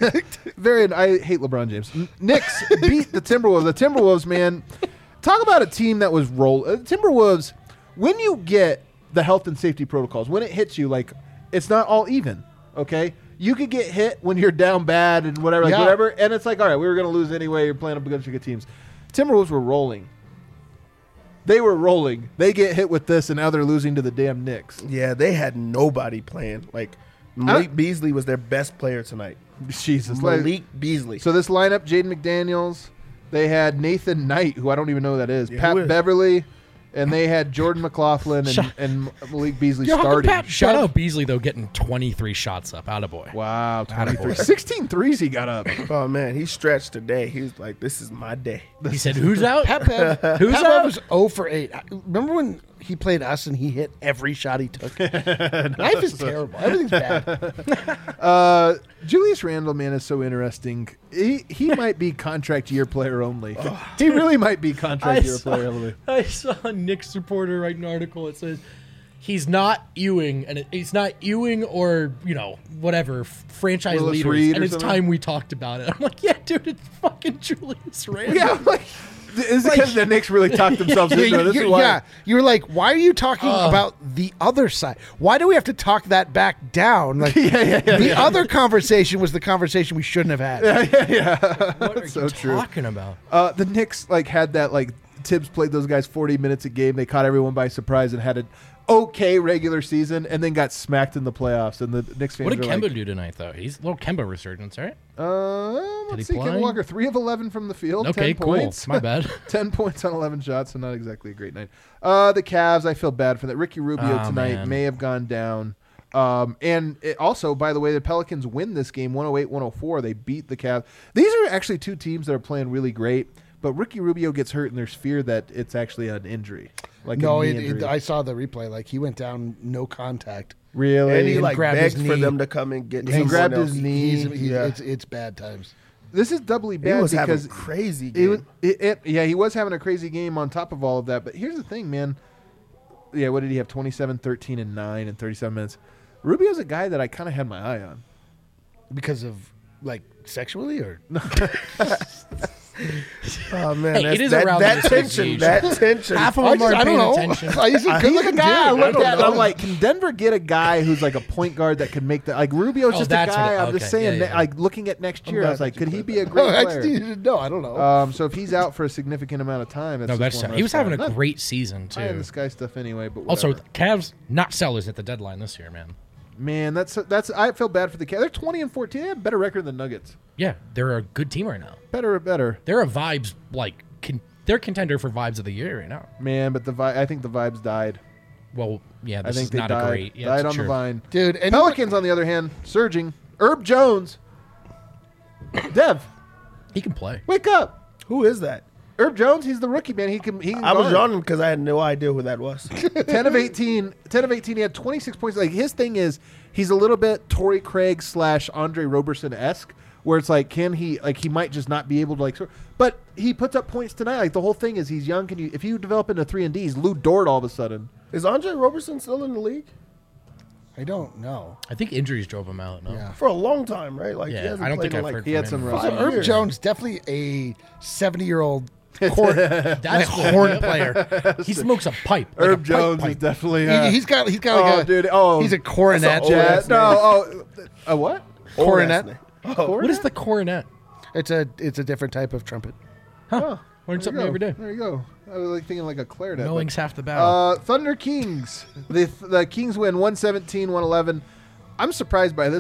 I hate LeBron James. Knicks beat the Timberwolves. The Timberwolves, man, talk about a team that was Timberwolves, when you get the health and safety protocols, when it hits you, like, it's not all even, okay? You could get hit when you're down bad and whatever, Yeah. whatever, and it's like, all right, we were going to lose anyway. You're playing up against good teams. Timberwolves were rolling. They were rolling. They get hit with this, and now they're losing to the damn Knicks. Yeah, they had nobody playing. Like, Malik Beasley was their best player tonight. Jesus. Malik Beasley. So this lineup, Jaden McDaniels, they had Nathan Knight, who I don't even know who that is, Yeah, Pat who is? Beverly, and they had Jordan McLaughlin and Malik Beasley starting. Shout out Beasley, though, getting 23 shots up. Attaboy. Wow, 23. Attaboy. 16 threes he got up. Oh, man, he stretched today. He was like, this is my day. He said, who's out? Pat Bev, Who's Pat Bev out? was 0 for 8. Remember when he played us and he hit every shot he took? Life is terrible. Everything's bad. Julius Randle, man, is so interesting. He might be contract year player only. He really might be contract year player only. I saw a Knicks reporter write an article. It says he's not Ewing, and he's not Ewing or whatever franchise Willis leaders. Reed and or it's something? time we talked about it. I'm like, yeah, dude, it's fucking Julius Randle. Yeah, like, is it because the Knicks really talked themselves into it? This is why. You were like, why are you talking about the other side? Why do we have to talk that back down? Like, the other conversation was the conversation we shouldn't have had. What are so you true. talking about? The Knicks had that Tibbs played those guys 40 minutes a game. They caught everyone by surprise and had an okay regular season, and then got smacked in the playoffs. And the Knicks fans What did are Kemba like, do tonight, though? He's a little Kemba resurgence, right? let's he see, Kemba play? Walker 3 of 11 from the field. Okay, 10 cool. points. My bad. 10 points on 11 shots, so not exactly a great night. The Cavs, I feel bad for that. Ricky Rubio Oh, tonight man. may have gone down. And also, by the way, the Pelicans win this game 108-104. They beat the Cavs. These are actually two teams that are playing really great, but Ricky Rubio gets hurt, and there's fear that it's actually an injury. Like No, a knee injury. I saw the replay. Like, he went down, no contact. Really? And he grabbed begged his for knee. them to come and get He someone grabbed else. his knee. Yeah. It's bad times. This is doubly He bad was having because a crazy It game. was, he was having a crazy game on top of all of that. But here's the thing, man. Yeah, what did he have? 27, 13, and 9 in 37 minutes. Rubio's a guy that I kind of had my eye on. Because of, sexually or? Oh, man. Hey, it is around that this tension. age. That tension. Half of them I aren't don't paying know. attention. He's a He's a good-looking guy I dude. looked don't at and I'm know. like, can Denver get a guy who's like a point guard that can make that? Like, Rubio's Oh, just a that's guy. what I'm just okay, saying, yeah, yeah. like, looking at next year, I glad was like, that you could he put be a No, great I just player? needed to know. I don't know. So if he's out for a significant amount of time, No, that's just one he was less having guy. a Not great season, high in too. the sky stuff anyway, but Also, whatever. Cavs not sellers at the deadline this year, man. Man, that's I feel bad for the Cavs. They're 20-14. They have a better record than the Nuggets. Yeah, they're a good team right now. Better. They're a vibes, they're contender for vibes of the year right now. Man, but I think the vibes died. Well, yeah, I this think is they not died. a great. Yeah, died it's on true. the vine. Dude, and Pelicans, on the other hand, surging. Herb Jones. Dev, He can play. wake up. Who is that? Herb Jones, he's the rookie, man. He can I was guard. yawning because I had no idea who that was. 10 of 18. 10 of 18. He had 26 points. Like, his thing is he's a little bit Torrey Craig / Andre Roberson-esque, where it's like, can he, like, he might just not be able to, but he puts up points tonight. Like, the whole thing is he's young. If you develop into 3 and D, he's Lou Dort all of a sudden. Is Andre Roberson still in the league? I don't know. I think injuries drove him out. No? Yeah. For a long time, right? Like, Yeah, he hasn't I don't played think in I've like heard He had from some him. rough Herb years. Jones, definitely a 70-year-old horn That's horn player. He smokes a pipe. like a Herb pipe Jones pipe. is definitely. He's got like oh, a dude. Oh, he's a coronet. Jazz. ass No. A what? Coronet. What is the coronet? It's a different type of trumpet. Oh, Learn there something you go. every day. There you go. I was like thinking like a clarinet. but- Knowing's half the battle. Thunder Kings. The Kings win 117-111. I'm surprised by this one.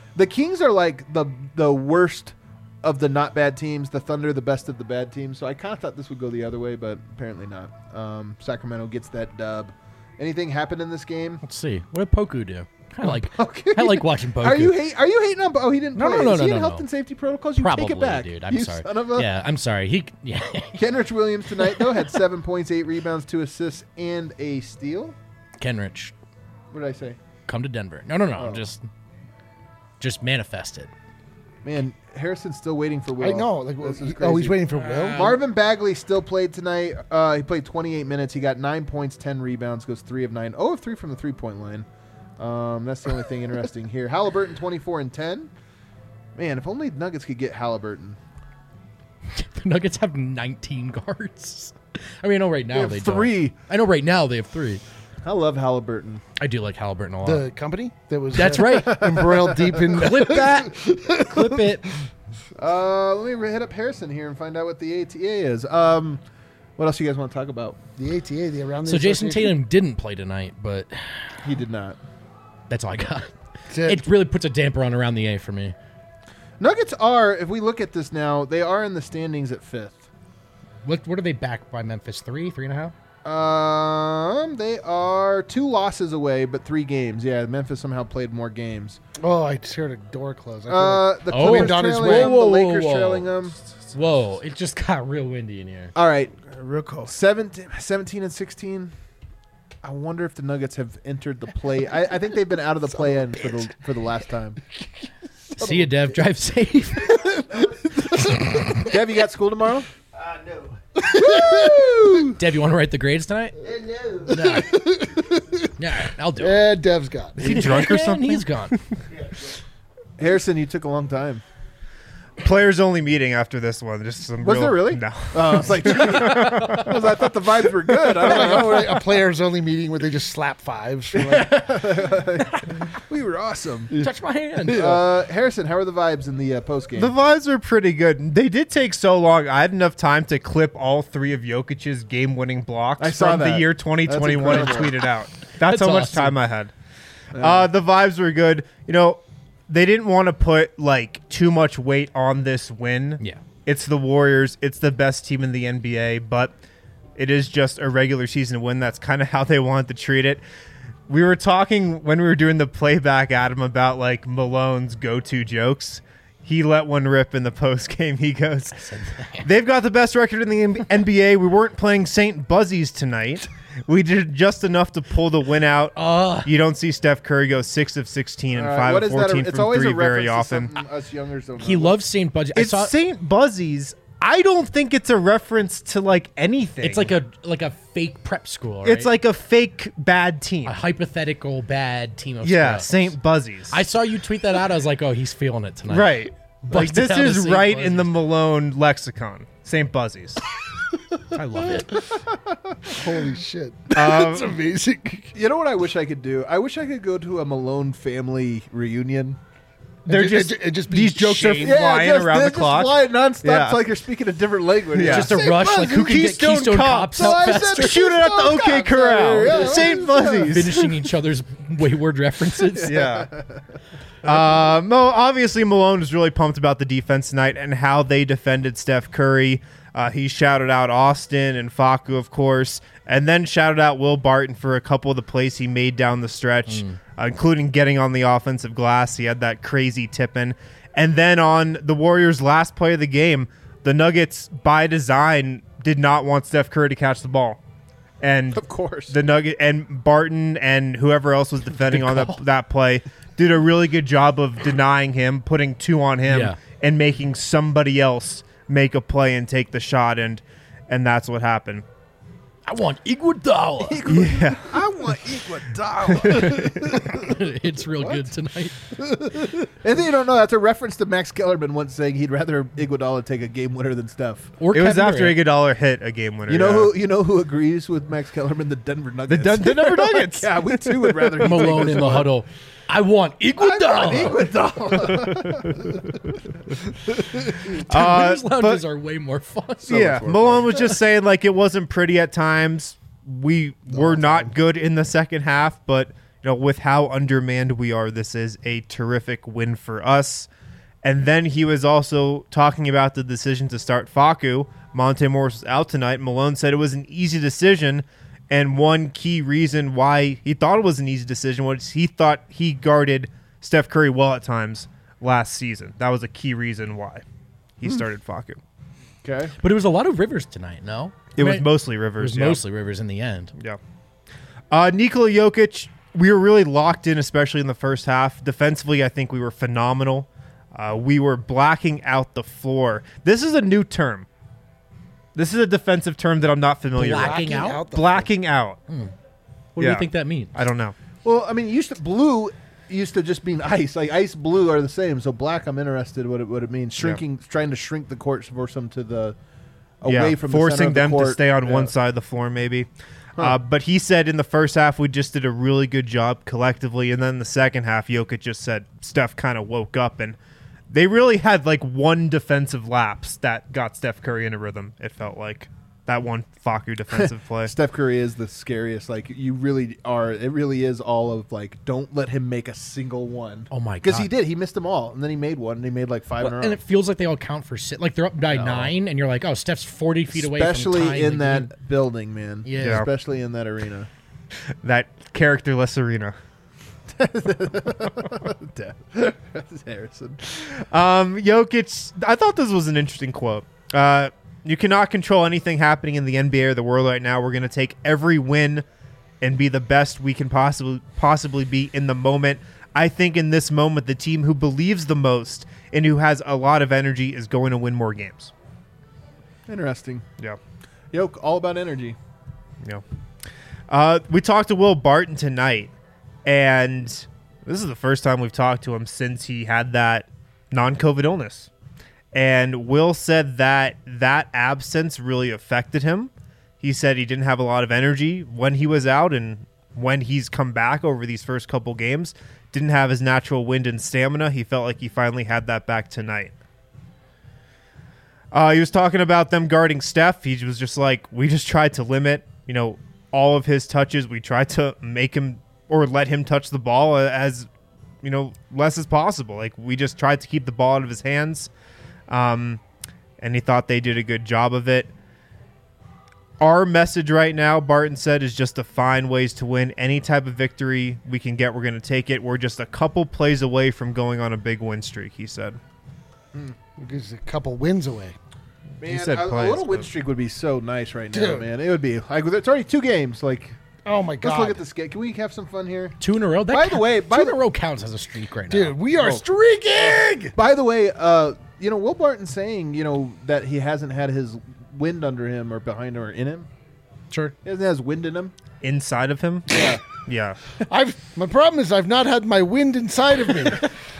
The Kings are like the worst of the not bad teams. The Thunder, the best of the bad teams. So I kind of thought this would go the other way, but apparently not. Sacramento gets that dub. Anything happen in this game? Let's see. What did Poku do? I like watching Poku. Are you hating on? Oh, he didn't. No, play. no, Is he no, in no, health no. and safety protocols? You Probably, take it back, dude. I'm you sorry. Son of a. Yeah, I'm sorry. Kenrich Williams tonight though had 7 points, 8 rebounds, 2 assists, and a steal. Kenrich, What did I say? come to Denver. No. Oh. Just manifest it. Man, Harrison's still waiting for Will. I know. Like, This is he's crazy. waiting for Will. Marvin Bagley still played tonight. He played 28 minutes. He got 9 points, 10 rebounds, goes 3 of 9. 0 of 3 from the three-point line. That's the only thing interesting here. Halliburton 24 and 10. Man, if only Nuggets could get Halliburton. The Nuggets have 19 guards. I mean, I know right now have they 3. don't. I know right now they have 3. I love Halliburton. I do like Halliburton a lot. The company that was That's right. embroiled deep in. Clip that. Clip it. Let me hit up Harrison here and find out what the ATA is. What else you guys want to talk about? The ATA, the around the So Jason association. Tatum didn't play tonight, but He did not. that's all I got. That's it. It really puts a damper on around the A for me. Nuggets are, if we look at this now, they are in the standings at 5th. What are they back by Memphis? 3.5? They are 2 losses away, but 3 games. Yeah, Memphis somehow played more games. Oh, I just heard a door close. I feel like- The Oh. Clippers Wind on his trailing way. them, Whoa, the whoa, Lakers whoa. trailing them. Whoa! It just got real windy in here. All right, Real cool. 17 and 16. I wonder if the Nuggets have entered the play. I think they've been out of the play-in for the last time. See you, Dev. Drive safe. Dev, you got school tomorrow? No. Dev, you want to write the grades tonight? No. Yeah, I'll do it. Yeah, Dev's gone. Is he drunk or And something? he's gone. Harrison, you took a long time. Players only meeting after this one. Just some. Was there really? No. I was like, I thought the vibes were good. I don't know. Like a players only meeting where they just slap fives. For like, We were awesome. Touch my hand. Harrison, how are the vibes in the post game? The vibes are pretty good. They did take so long. I had enough time to clip all 3 of Jokic's game-winning blocks I saw from that. the year 2021 and That's tweet it out. That's how much awesome. time I had. The vibes were good. You know, they didn't want to put like too much weight on this win. Yeah. It's the Warriors. It's the best team in the NBA, but it is just a regular season win. That's kind of how they wanted to treat it. We were talking when we were doing the playback, Adam, about like Malone's go-to jokes. He let one rip in the post game. He goes, "They've got the best record in the NBA. We weren't playing St. Buzzies tonight. We did just enough to pull the win out. You don't see Steph Curry go 6 of 16 and 5 what of is that? 14 It's from always 3 a reference very to often. something us youngers don't know. He loves St. Budgie. It's St. Buzzies. I don't think it's a reference to like anything. It's like a fake prep school. Right? It's like a fake bad team. a hypothetical bad team of Yeah, scrubs. St. Buzzies. I saw you tweet that out. I was like, oh, he's feeling it tonight. Right. Like Busted this out a is St. right in the Buzzies. Malone lexicon. St. Buzzies. I love it. holy shit. That's amazing. You know what I wish I could do? I wish I could go to a Malone family reunion. They're It just, just be these jokes are shame. flying around they're the clock. Just flying nonstop. Yeah. It's like you're speaking a different language. Yeah. Just a St. rush, like who can get Keystone Keystone Cops. Cops out I said faster. Shoot it at the OK Keystone Corral. Cops. Yeah, St. what is Buzzies. Finishing each other's wayward references. Yeah. Obviously, Malone was really pumped about the defense tonight and how they defended Steph Curry. He shouted out Austin and Facu, of course, and then shouted out Will Barton for a couple of the plays he made down the stretch, including getting on the offensive glass. He had that crazy tip-in. And then on the Warriors' last play of the game, the Nuggets, by design, did not want Steph Curry to catch the ball. And Of course. the Nugget and Barton and whoever else was defending on that play did a really good job of denying him, putting 2 on him, Yeah. and making somebody else make a play and take the shot, and that's what happened. I want Iguodala. Yeah, I want Iguodala. It's real good tonight. And then you don't know, that's a reference to Max Kellerman once saying he'd rather Iguodala take a game winner than Steph. Or it was Kevin after Durant. Iguodala hit a game winner. You know who agrees with Max Kellerman? The Denver Nuggets. the Denver Nuggets. Yeah, we too would rather he Malone take this in the one. huddle. I want Iguodala. Those lounges are way more fun. Yeah, Malone was just saying like it wasn't pretty at times. We were not good in the second half, but with how undermanned we are, this is a terrific win for us. And then he was also talking about the decision to start Facu. Monte Morris was out tonight. Malone said it was an easy decision, and one key reason why he thought it was an easy decision was he thought he guarded Steph Curry well at times last season. That was a key reason why he started Facu. Okay. But it was a lot of Rivers tonight, no? It was mostly Rivers. It was mostly Rivers in the end. Yeah. Nikola Jokic, we were really locked in, especially in the first half. Defensively, I think we were phenomenal. We were blacking out the floor. This is a new term. This is a defensive term that I'm not familiar Blacking with. out? Blacking out. What do you think that means? I don't know. Well, I mean, blue used to just mean ice. Like ice, blue are the same. So black, I'm interested what it means. Trying to shrink the court, force them to the away from forcing the center of the them court. to stay on one side of the floor, maybe. But he said in the first half we just did a really good job collectively, and then the second half, Jokic just said Steph kind of woke up, and they really had like one defensive lapse that got Steph Curry in a rhythm. It felt like that one Facu defensive play. Steph Curry is the scariest. Like you really are. It really is all of like, don't let him make a single one. Oh my god! Because he did. He missed them all, and then he made one, and he made like 5 in a row. And it feels like they all count for like they're up by 9, and you're like, oh, Steph's 40 feet away. Especially from in that building, man. Yeah. Especially in that arena. That characterless arena. Harrison. Jokic, I thought this was an interesting quote. You cannot control anything happening in the NBA or the world right now. We're going to take every win and be the best we can possibly be in the moment. I think in this moment, the team who believes the most and who has a lot of energy is going to win more games. Interesting. Yeah. Yoke, all about energy. Yeah. We talked to Will Barton tonight, and this is the first time we've talked to him since he had that non-COVID illness. And Will said that absence really affected him. He said he didn't have a lot of energy when he was out, and when he's come back over these first couple games, didn't have his natural wind and stamina. He felt like he finally had that back tonight. He was talking about them guarding Steph. He was just like, we just tried to limit, all of his touches. We tried to make him or let him touch the ball as, less as possible. Like, we just tried to keep the ball out of his hands. And he thought they did a good job of it. Our message right now, Barton said, is just to find ways to win. Any type of victory we can get, we're going to take it. We're just a couple plays away from going on a big win streak, he said. Just a couple wins away. Man, said a plays, little win but- streak would be so nice right now, Dude. man. It would be. Like, it's already 2 games. Like, Oh my god! let's look at this game. Can we have some fun here? 2 in a row. By the way, 2 in a row counts as a streak right now. Dude, we are streaking. By the way, Will Barton saying, that he hasn't had his wind under him or behind him or in him. Sure. He hasn't had his wind in him. Inside of him? Yeah. Yeah. My problem is I've not had my wind inside of me.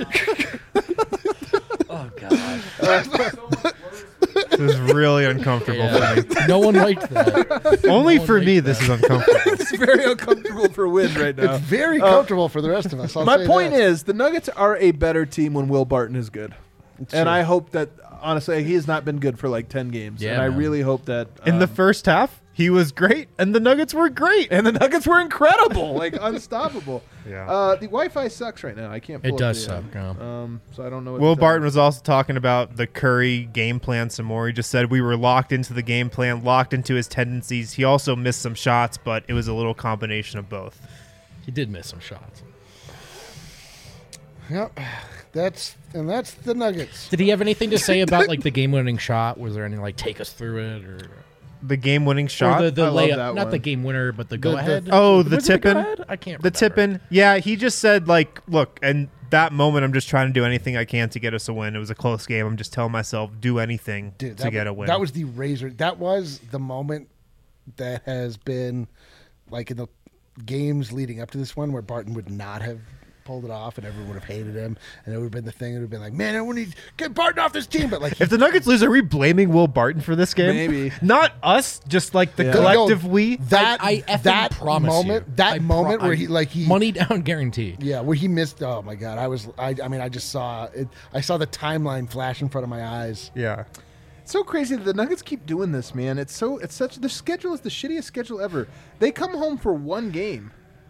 Oh god. This is really uncomfortable for me. No one liked that. Only one for liked me, that. this is uncomfortable. It's very uncomfortable for wind right now. It's very comfortable for the rest of us. I'll My say point that. is, the Nuggets are a better team when Will Barton is good. And true. I hope that, honestly, he has not been good for like 10 games. Yeah, and I man. really hope that. In the first half, he was great, and the Nuggets were great. and the Nuggets were incredible, like unstoppable. Yeah. The Wi-Fi sucks right now. I can't. Pull It up does the, suck. Yeah. So I don't know. What Will to tell Barton you. was also talking about the Curry game plan some more. He just said we were locked into the game plan, locked into his tendencies. He also missed some shots, but it was a little combination of both. He did miss some shots. Yep. That's the Nuggets. Did he have anything to say about like the game-winning shot? Was there any like take us through it or The game-winning shot. or the I love layup? that Not one. the game winner, but the go-ahead. Oh, the Was it tip-in? go-ahead? I can't. The remember. tip-in. Yeah, he just said, like, look, and that moment I'm just trying to do anything I can to get us a win. It was a close game. I'm just telling myself, do anything Dude, to get a win. That was the razor. That was the moment that has been like in the games leading up to this one where Barton would not have pulled it off and everyone would have hated him and it would have been the thing. It would have been like, man, everyone needs to get Barton off this team. But like, If the Nuggets lose, are we blaming Will Barton for this game? Maybe. Not us, just like the Yeah. collective we. that I effing that promise moment, you. that I moment pro- where I- he money down guarantee. yeah, where he missed. Oh my god, I mean, I just saw it. I saw the timeline flash in front of my eyes. Yeah. It's so crazy that the Nuggets keep doing this, man. It's such the schedule is the shittiest schedule ever. They come home for one game.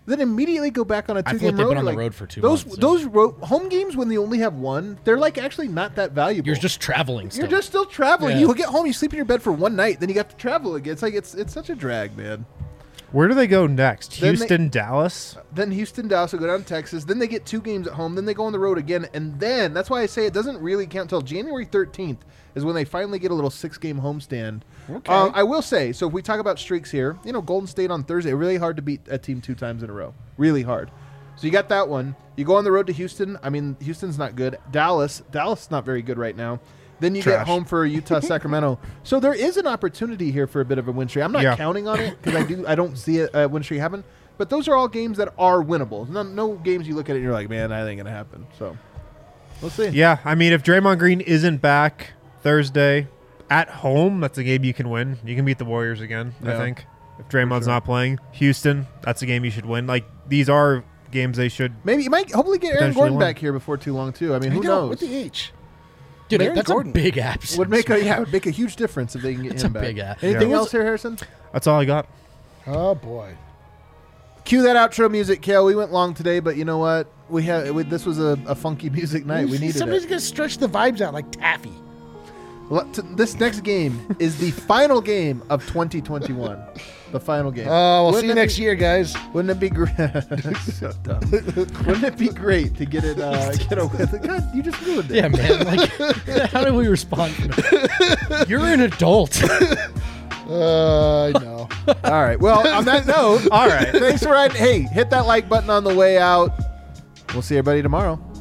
then immediately go back on a I feel two-game like they've road. been on the Like, road for 2 those months. those home games when they only have one, they're like actually not that valuable. You're just traveling still. You're just still traveling. Yeah. You get home, you sleep in your bed for one night, then you have to travel again. It's like it's such a drag, man. Where do they go next? Then Houston, Dallas. Then Houston, Dallas will go down to Texas. Then they get 2 games at home. Then they go on the road again, and then that's why I say it doesn't really count till January 13th is when they finally get a little 6-game homestand. Okay. I will say, so if we talk about streaks here, Golden State on Thursday, really hard to beat a team 2 times in a row. Really hard. So you got that one. You go on the road to Houston. I mean, Houston's not good. Dallas is not very good right now. Then you get Trash. home for Utah, Sacramento. So there is an opportunity here for a bit of a win streak. I'm not counting on it because I don't see a win streak happen. But those are all games that are winnable. No games you look at it and you're like, man, that ain't gonna happen. So we'll see. Yeah, I mean, if Draymond Green isn't back Thursday at home, that's a game you can win. You can beat the Warriors again, I Yeah. think. If Draymond's not playing. Houston, that's a game you should win. Like, these are games they should. Maybe you might hopefully get Aaron Potentially Gordon win. back here before too long too. I mean, I who know, knows? with the H. Dude, Aaron that's Gordon. a big absence. Would make a huge difference if they can get That's him a back. big app. Anything Yeah. else here, Harrison? That's all I got. Oh boy. Cue that outro music, Kale. We went long today, but you know what? This was a funky music night. We needed Somebody's it. gonna stretch the vibes out like taffy. This next game is the final game of 2021. The final game. Oh, we'll see you Wouldn't it next year, guys. Wouldn't it be great? So dumb. Wouldn't it be great to get it? Get a win? God, you just ruined it. Yeah, man. Like, how do we respond to that? You're an adult. I know. All right. Well, on that note, all right. Thanks for riding. Hey, hit that like button on the way out. We'll see everybody tomorrow.